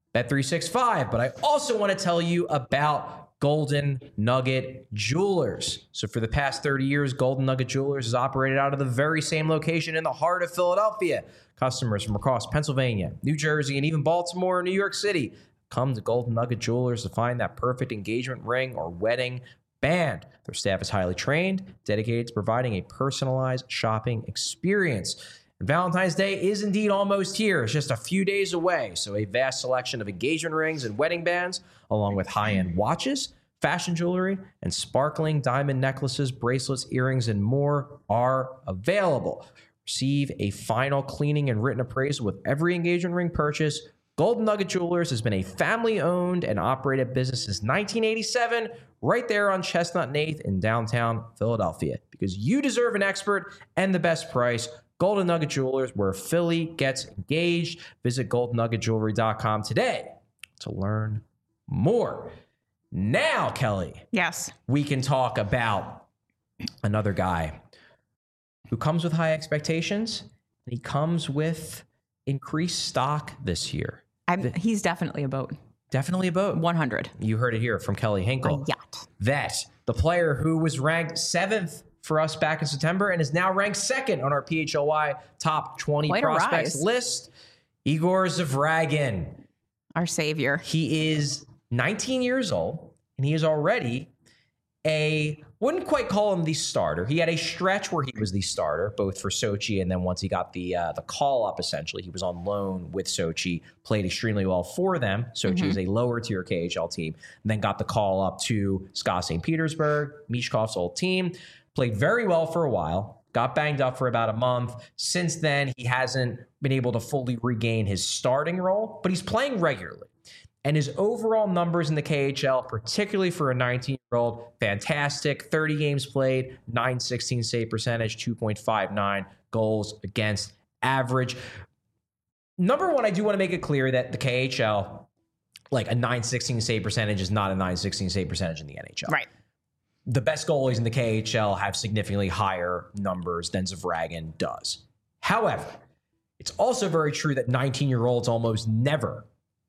Bet365. But I also want to tell you about Golden Nugget Jewelers. So for the past 30 years, Golden Nugget Jewelers has operated out of the very same location in the heart of Philadelphia. Customers from across Pennsylvania, New Jersey, and even Baltimore and New York City come to Golden Nugget Jewelers to find that perfect engagement ring or wedding band. Their staff is highly trained, dedicated to providing a personalized shopping experience. And Valentine's Day is indeed almost here. It's just a few days away. So a vast selection of engagement rings and wedding bands, along with high-end watches, fashion jewelry, and sparkling diamond necklaces, bracelets, earrings, and more are available. Receive a final cleaning and written appraisal with every engagement ring purchase Golden Nugget Jewelers has been a family-owned and operated business since 1987, right there on Chestnut and 8th in downtown Philadelphia. Because you deserve an expert and the best price, Golden Nugget Jewelers, where Philly gets engaged. Visit goldennuggetjewelry.com today to learn more. Now, Kelly, Yes. we can talk about another guy who comes with high expectations, and he comes with increased stock this year. He's definitely a boat. Definitely a boat. 100. You heard it here from Kelly Hinkle. A yacht. That the player who was ranked 7th for us back in September and is now ranked 2nd on our PHLY top 20 Quite a prospects rise. list, Igor Zavragin. Our savior. He is 19 years old, and he is already wouldn't quite call him the starter. He had a stretch where he was the starter, both for Sochi, and then once he got the call up, essentially, he was on loan with Sochi, played extremely well for them. Sochi is a lower tier KHL team, and then got the call up to SKA St. Petersburg, Mishkov's old team, played very well for a while, got banged up for about a month. Since then, he hasn't been able to fully regain his starting role, but he's playing regularly. And his overall numbers in the KHL, particularly for a 19-year-old, fantastic. 30 games played, .916 save percentage, 2.59 goals against average. Number one, I do want to make it clear that the KHL, like a .916 save percentage is not a .916 save percentage in the NHL. Right. The best goalies in the KHL have significantly higher numbers than Zavragin does. However, it's also very true that 19-year-olds almost never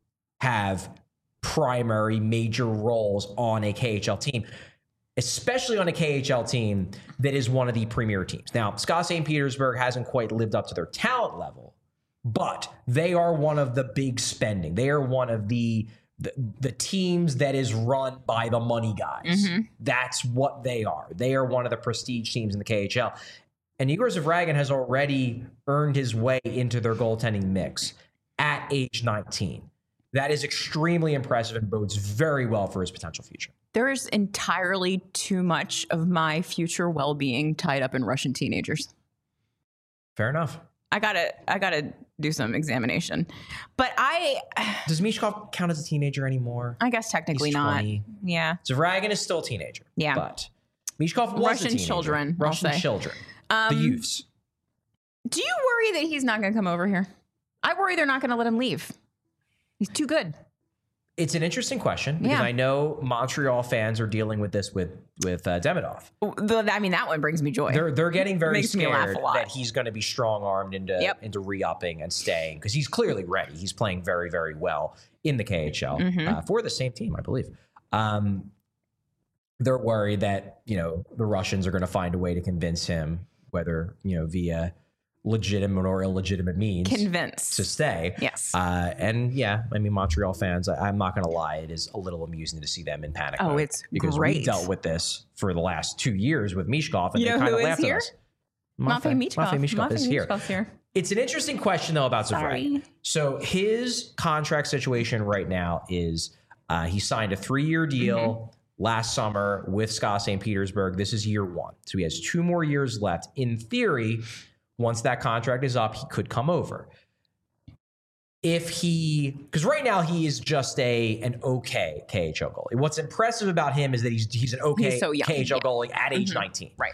have primary major roles on a KHL team, especially on a KHL team that is one of the premier teams. Now, SKA St. Petersburg hasn't quite lived up to their talent level, but they are one of the big spending. They are one of the teams that is run by the money guys. That's what they are. They are one of the prestige teams in the KHL. And Igor Zavragin has already earned his way into their goaltending mix at age 19. That is extremely impressive and bodes very well for his potential future. There is entirely too much of my future well-being tied up in Russian teenagers. Fair enough. I gotta do some examination. But Does Mishkov count as a teenager anymore? I guess technically He's not. 20. Yeah. Zavragin is still a teenager. Yeah. But Mishkov was Russian a teenager. children, I'll Russian say. children. The youths. Do you worry that he's not going to come over here? I worry they're not going to let him leave. He's too good. It's an interesting question because Yeah. I know Montreal fans are dealing with this with Demidov. I mean, that one brings me joy. They're getting very Makes me laugh scared a lot. that he's going to be strong-armed into re-upping and staying because he's clearly ready. He's playing very, very well in the KHL for the same team, I believe. They're worried that, the Russians are going to find a way to convince him, whether, via legitimate or illegitimate means, Convinced to stay. Yes. And yeah, I mean, Montreal fans, I'm not going to lie, it is a little amusing to see them in panic Oh, mode it's because we great. dealt with this for the last 2 years with Mishkov, and You they know kind who of is laughed here? at us. Matvei Michkov. Mishkov is here. Michkov's here. It's an interesting question, though, about Sorry. Zavragin. So his contract situation right now is he signed a 3-year deal last summer with SKA St. Petersburg. This is year 1. So he has 2 more years left. In theory, once that contract is up, he could come over. Because right now he is just an okay KHL goalie. What's impressive about him is that he's an okay He's so young. KHL Yeah. goalie at age 19. Right.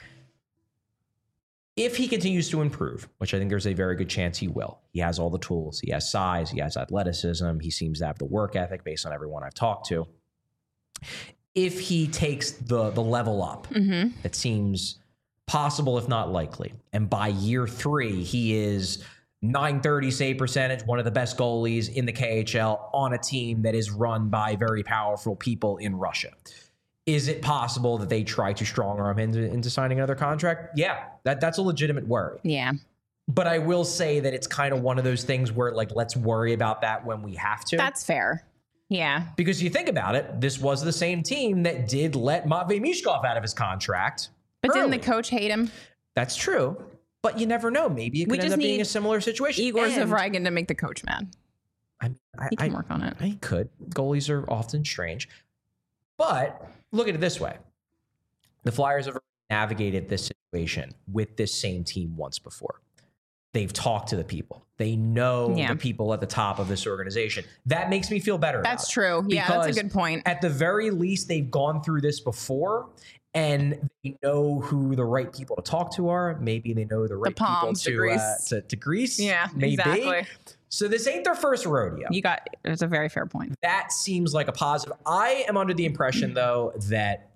If he continues to improve, which I think there's a very good chance he will, he has all the tools. He has size. He has athleticism. He seems to have the work ethic based on everyone I've talked to. If he takes the level up, it seems possible, if not likely. And by year 3, he is .930 save percentage, one of the best goalies in the KHL on a team that is run by very powerful people in Russia. Is it possible that they try to strong arm him into signing another contract? Yeah, that's a legitimate worry. Yeah. But I will say that it's kind of one of those things where, let's worry about that when we have to. That's fair. Yeah. Because you think about it, this was the same team that did let Matvei Mishkov out of his contract. But didn't early. the coach hate him? That's true. But you never know. Maybe it could end just up being need a similar situation. Igor And- Zavragin to make the coach mad. He can work on it. I could. Goalies are often strange. But look at it this way. The Flyers have navigated this situation with this same team once before. They've talked to the people. They know Yeah. the people at the top of this organization. That makes me feel better. That's about it. true. Yeah, that's a Because good point. At the very least, they've gone through this before and they know who the right people to talk to are. Maybe they know the right palms to people grease. to grease. Yeah, maybe. exactly. So this ain't their first rodeo. It's a very fair point. That seems like a positive. I am under the impression, though, that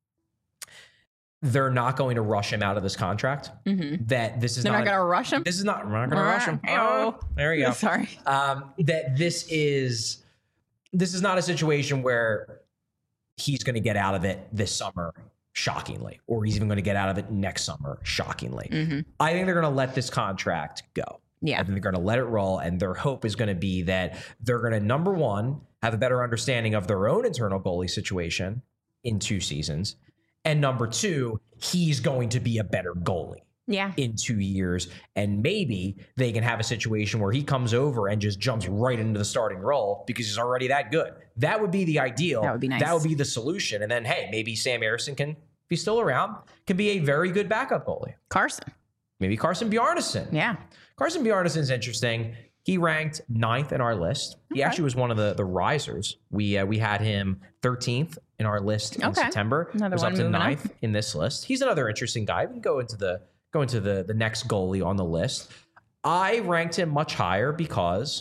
they're not going to rush him out of this contract. That this is They're not going to rush him. This is not. We're not going to rush him. Oh. There you go. Sorry. That this is not a situation where he's going to get out of it this summer, shockingly, or he's even going to get out of it next summer, shockingly. I think they're going to let this contract go. Yeah. I think they're going to let it roll, and their hope is going to be that they're going to, number one, have a better understanding of their own internal goalie situation in 2 seasons, and number two, he's going to be a better goalie Yeah. in 2 years, and maybe they can have a situation where he comes over and just jumps right into the starting role because he's already that good. That would be the ideal. That would be nice. That would be the solution. And then, hey, maybe Sam Ersson can, if he's still around, can be a very good backup goalie. Carson. Maybe Carson Bjarnason. Yeah. Carson Bjarnason is interesting. He ranked 9th in our list. He actually was one of the risers. We had him 13th in our list in September. Another was one up to moving 9th up. in this list. He's another interesting guy. We can go into the next goalie on the list. I ranked him much higher because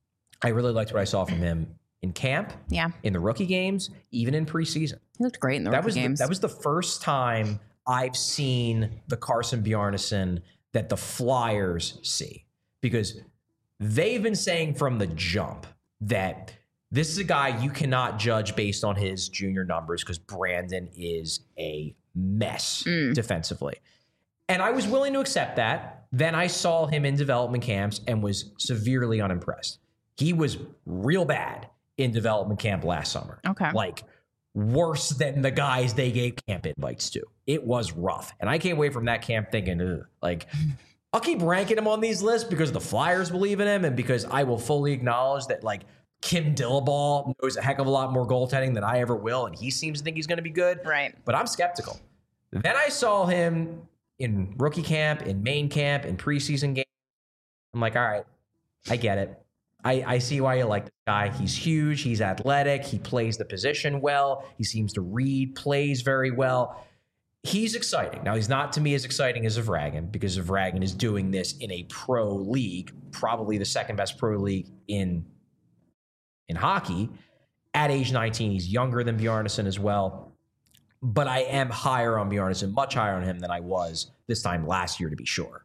I really liked what I saw from him in camp, Yeah. in the rookie games, even in preseason. He looked great in the rookie games. That was the first time I've seen the Carson Bjarnason that the Flyers see, because they've been saying from the jump that this is a guy you cannot judge based on his junior numbers because Brandon is a mess defensively. And I was willing to accept that. Then I saw him in development camps and was severely unimpressed. He was real bad in development camp last summer. Okay. Like worse than the guys they gave camp invites to. It was rough. And I came away from that camp thinking, ugh, like, I'll keep ranking him on these lists because the Flyers believe in him and because I will fully acknowledge that, like, Kim Dillabaugh knows a heck of a lot more goaltending than I ever will, and he seems to think he's going to be good. Right. But I'm skeptical. Then I saw him in rookie camp, in main camp, in preseason games. I'm like, all right, I get it. I see why you like this guy. He's huge. He's athletic. He plays the position well. He seems to read plays very well. He's exciting. Now, he's not to me as exciting as Zvragin because Zvragin is doing this in a pro league, probably the second best pro league in hockey. At age 19, he's younger than Bjarnason as well. But I am higher on Bjarnason, much higher on him than I was this time last year, to be sure.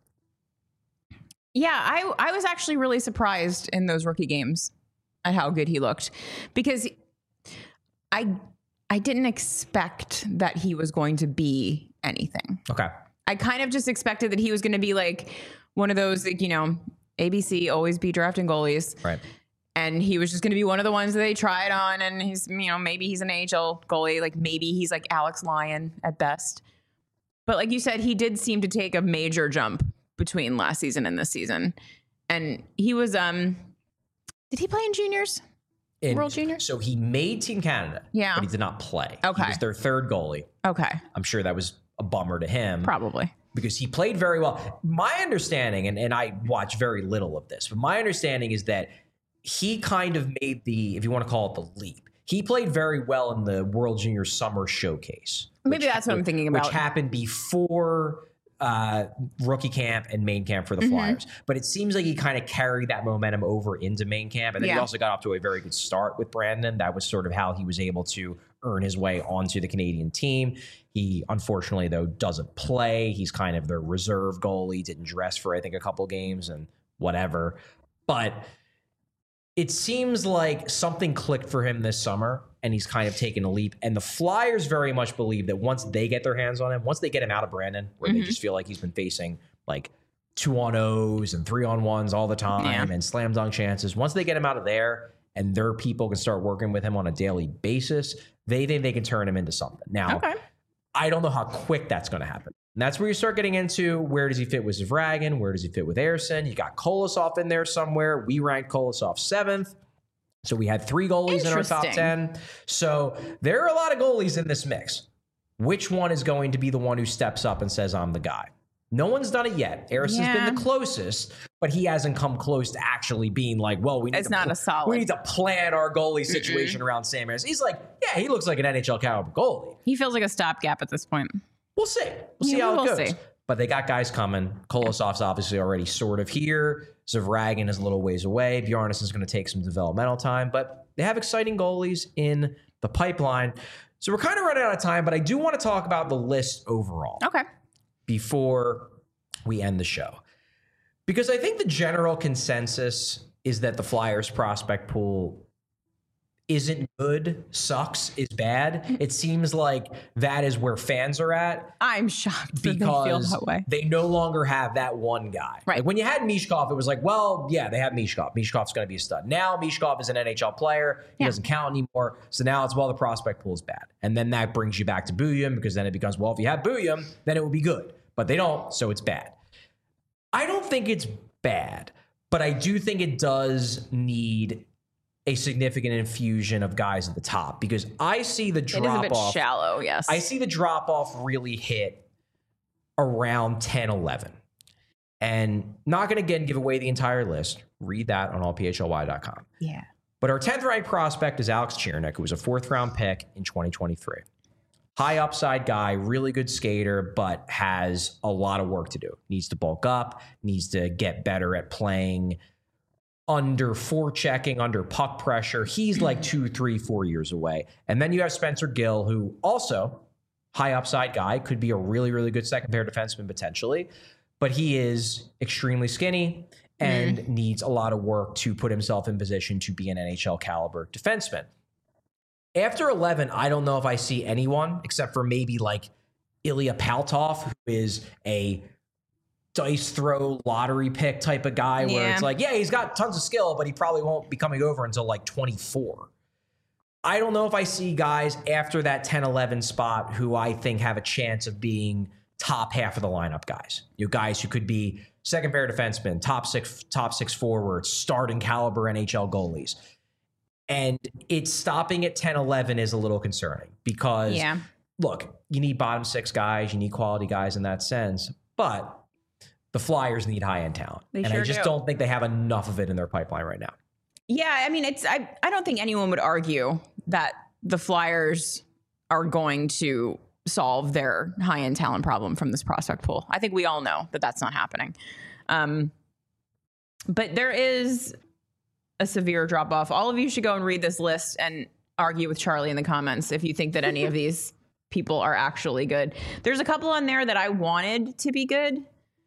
Yeah, I was actually really surprised in those rookie games at how good he looked because I didn't expect that he was going to be anything. Okay. I kind of just expected that he was going to be like one of those, like, you know, ABC always be drafting goalies. Right. And he was just going to be one of the ones that they tried on. And he's, you know, maybe he's an AHL goalie. Like maybe he's like Alex Lyon at best. But like you said, he did seem to take a major jump between last season and this season. And he was, did he play in juniors? World Juniors? So he made Team Canada. Yeah. But he did not play. Okay. He was their third goalie. Okay. I'm sure that was a bummer to him. Probably. Because he played very well. My understanding, and I watch very little of this, but my understanding is that he kind of made the, if you want to call it the leap, he played very well in the World Junior Summer Showcase. Maybe that's what I'm thinking about. Which happened before rookie camp and main camp for the Flyers. But it seems like he kind of carried that momentum over into main camp. And then he also got off to a very good start with Brandon. That was sort of how he was able to earn his way onto the Canadian team. He, unfortunately, though, doesn't play. He's kind of their reserve goalie, didn't dress for, I think, a couple games and whatever. But it seems like something clicked for him this summer, and he's kind of taken a leap. And the Flyers very much believe that once they get their hands on him, once they get him out of Brandon, where they just feel like he's been facing like 2-on-0s and 3-on-1s all the time and slam dunk chances, once they get him out of there and their people can start working with him on a daily basis, they think they can turn him into something. Now, I don't know how quick that's going to happen. And that's where you start getting into where does he fit with Zvragin? Where does he fit with Ersson? You got Kolosov in there somewhere. We ranked Kolosov 7th. So we had 3 goalies in our top 10. So there are a lot of goalies in this mix. Which one is going to be the one who steps up and says, I'm the guy? No one's done it yet. Eris has been the closest, but he hasn't come close to actually being like, well, we need to plan our goalie situation around Sam Harris. He's like, yeah, he looks like an NHL caliber goalie. He feels like a stopgap at this point. We'll see. We'll see how it goes. But they got guys coming. Kolosov's obviously already sort of here. Zavragin is a little ways away. Bjarnason's going to take some developmental time, but they have exciting goalies in the pipeline. So we're kind of running out of time, but I do want to talk about the list overall. Okay. Before we end the show. Because I think the general consensus is that the Flyers prospect pool isn't good, sucks, is bad. It seems like that is where fans are at. I'm shocked because they feel that way. They no longer have that one guy. Right. Like when you had Mishkov, it was like, well, yeah, they have Mishkov. Mishkov's going to be a stud. Now Mishkov is an NHL player. He doesn't count anymore. So now it's, well, the prospect pool is bad. And then that brings you back to Bouillon, because then it becomes, well, if you have Bouillon, then it would be good. But they don't, so it's bad. I don't think it's bad, but I do think it does need a significant infusion of guys at the top, because I see the drop off. It is a bit shallow, yes. I see the drop off really hit around 10, 11. And not going to, again, give away the entire list. Read that on allphly.com. Yeah. But our 10th ranked prospect is Alex Chirnik, who was a 4th round pick in 2023. High upside guy, really good skater, but has a lot of work to do. Needs to bulk up, needs to get better at playing under forechecking, under puck pressure. He's like 2, 3, 4 years away. And then you have Spencer Gill, who also high upside guy, could be a really, really good second pair defenseman potentially, but he is extremely skinny and needs a lot of work to put himself in position to be an NHL caliber defenseman. After 11, I don't know if I see anyone except for maybe like Ilya Paltov, who is a dice throw lottery pick type of guy where it's like, yeah, he's got tons of skill, but he probably won't be coming over until like 24. I don't know if I see guys after that 10-11 spot who I think have a chance of being top half of the lineup guys. You know, guys who could be second pair defensemen, top six forwards, starting caliber NHL goalies. And it's stopping at 10-11 is a little concerning because, look, you need bottom six guys, you need quality guys in that sense, but the Flyers need high-end talent. And I just don't think they have enough of it in their pipeline right now. Yeah, I mean, I don't think anyone would argue that the Flyers are going to solve their high-end talent problem from this prospect pool. I think we all know that that's not happening. But there is a severe drop-off. All of you should go and read this list and argue with Charlie in the comments if you think that any of these people are actually good. There's a couple on there that I wanted to be good.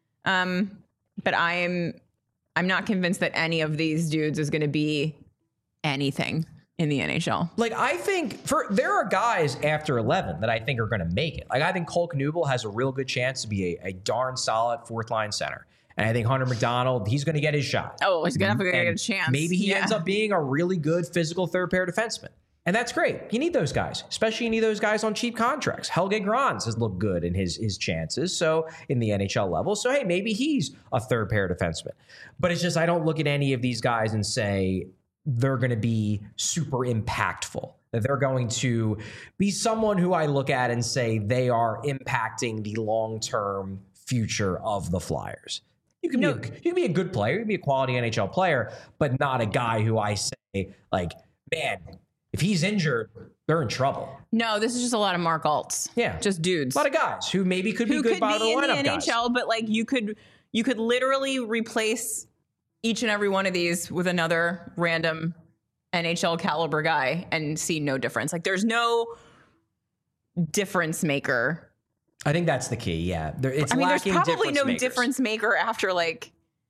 But I'm not convinced that any of these dudes is going to be anything in the NHL. Like, I think there are guys after 11 that I think are going to make it. Like, I think Cole Knuble has a real good chance to be a darn solid fourth line center. And I think Hunter McDonald, he's going to get his shot. Oh, he's going to get a chance. Maybe he ends up being a really good physical third pair defenseman. And that's great. You need those guys, especially you need those guys on cheap contracts. Helge Grans has looked good in his chances, so in the NHL level. So, hey, maybe he's a third pair defenseman. But it's just I don't look at any of these guys and say they're going to be super impactful, that they're going to be someone who I look at and say they are impacting the long-term future of the Flyers. You can be a good player, you can be a quality NHL player, but not a guy who I say, like, man, if he's injured, they're in trouble. No, this is just a lot of Mark Alts. Yeah. Just dudes. A lot of guys who maybe could be good bottom lineup guys. Who could be in the NHL, but like you could literally replace each and every one of these with another random NHL caliber guy and see no difference. Like there's no difference maker. I think that's the key. Yeah. There's probably no difference maker after like,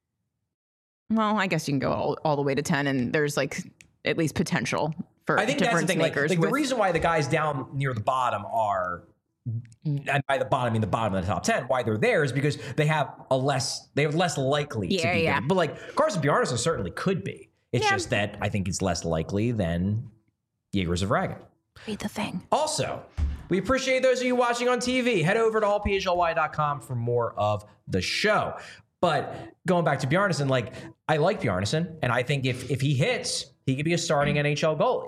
well, I guess you can go all the way to 10 and there's like at least potential for I think difference that's the thing. makers. Like the reason why the guys down near the bottom are, and by the bottom I mean the bottom of the top 10, why they're there is because they have less likely to be good. But like Carson Bjarnason certainly could be. It's just that I think it's less likely than Yegor Zavragin. Be the thing. Also, we appreciate those of you watching on TV. Head over to allphly.com for more of the show. But going back to Bjarnason, like I like Bjarnason, and I think if he hits, he could be a starting NHL goalie.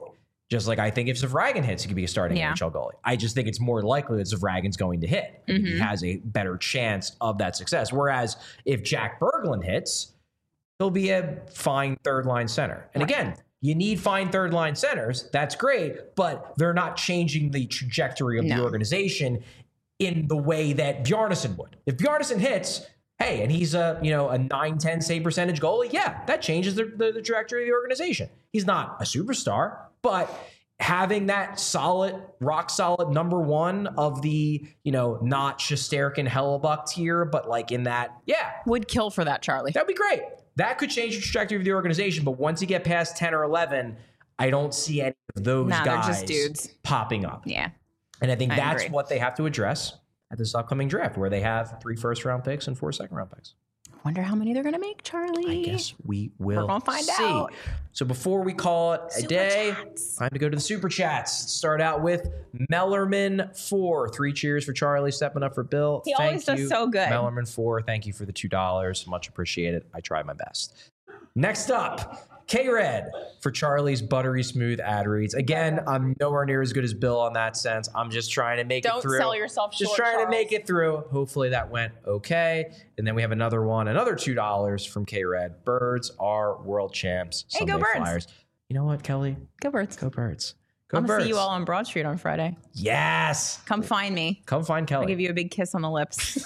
Just like I think if Zvragin hits, he could be a starting Yeah. NHL goalie. I just think it's more likely that Zvragin's going to hit. I think he has a better chance of that success. Whereas if Jack Berglund hits, he'll be a fine third-line center. And again, you need fine third-line centers. That's great, but they're not changing the trajectory of the organization in the way that Bjarnason would. If Bjarnason hits, hey, and he's a 9-10 save percentage goalie, yeah, that changes the trajectory of the organization. He's not a superstar, but having that solid, rock solid number one of the, not Shesterkin Hellebuck tier, but like in that, Would kill for that, Charlie. that'd be great. That could change the trajectory of the organization, but once you get past 10 or 11, I don't see any of those Nah, guys they're just dudes. popping up. Yeah. And I think I that's agree. what they have to address at this upcoming draft, where they have 3 first-round picks and 4 second-round picks. Wonder how many they're going to make, Charlie. I guess we will We're gonna find see. out. So before we call it a Super day, chats. time to go to the super chats. Start out with Mellerman 4. 3 cheers for Charlie stepping up for Bill. He always Thank does you, so good. Mellerman 4. Thank you for the $2. Much appreciated. I tried my best. Next up, K-Red for Charlie's buttery smooth ad reads. Again, I'm nowhere near as good as Bill on that sense. I'm just trying to make it Don't through. sell yourself Just short, trying to Charles. make it through. Hopefully that went okay. And then we have another one, another $2 from K-Red. Birds are world champs. Hey, go Sunday Birds. Flyers. You know what, Kelly? Go Birds. Go Birds. Go I'm going Birds. to see you all on Broad Street on Friday. Yes. Come find me. Come find Kelly. I'll give you a big kiss on the lips.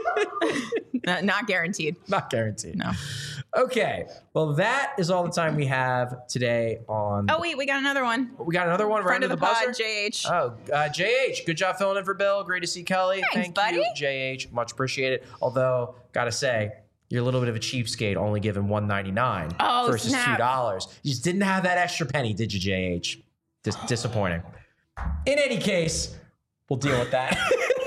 Not guaranteed. Not guaranteed. No. Okay. Well, that is all the time we have today on. Oh, wait, we got another one. We got another one right Friend under of the the buzzer. pod, JH. Oh, JH, good job filling in for Bill. Great to see Kelly. Thanks, Thank you, buddy. JH. Much appreciated. Although, gotta say, you're a little bit of a cheapskate, only giving $1.99 Oh, versus snap. $2. You just didn't have that extra penny, did you, JH? Disappointing. In any case, we'll deal with that.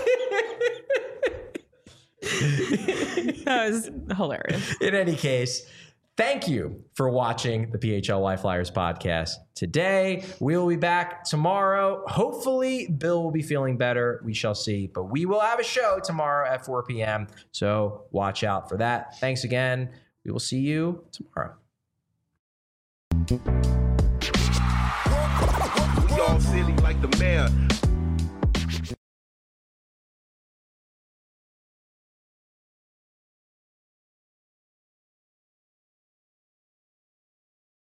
That was hilarious. In any case, thank you for watching the PHLY Flyers podcast today. We will be back tomorrow. Hopefully, Bill will be feeling better. We shall see. But we will have a show tomorrow at 4 p.m. So watch out for that. Thanks again. We will see you tomorrow.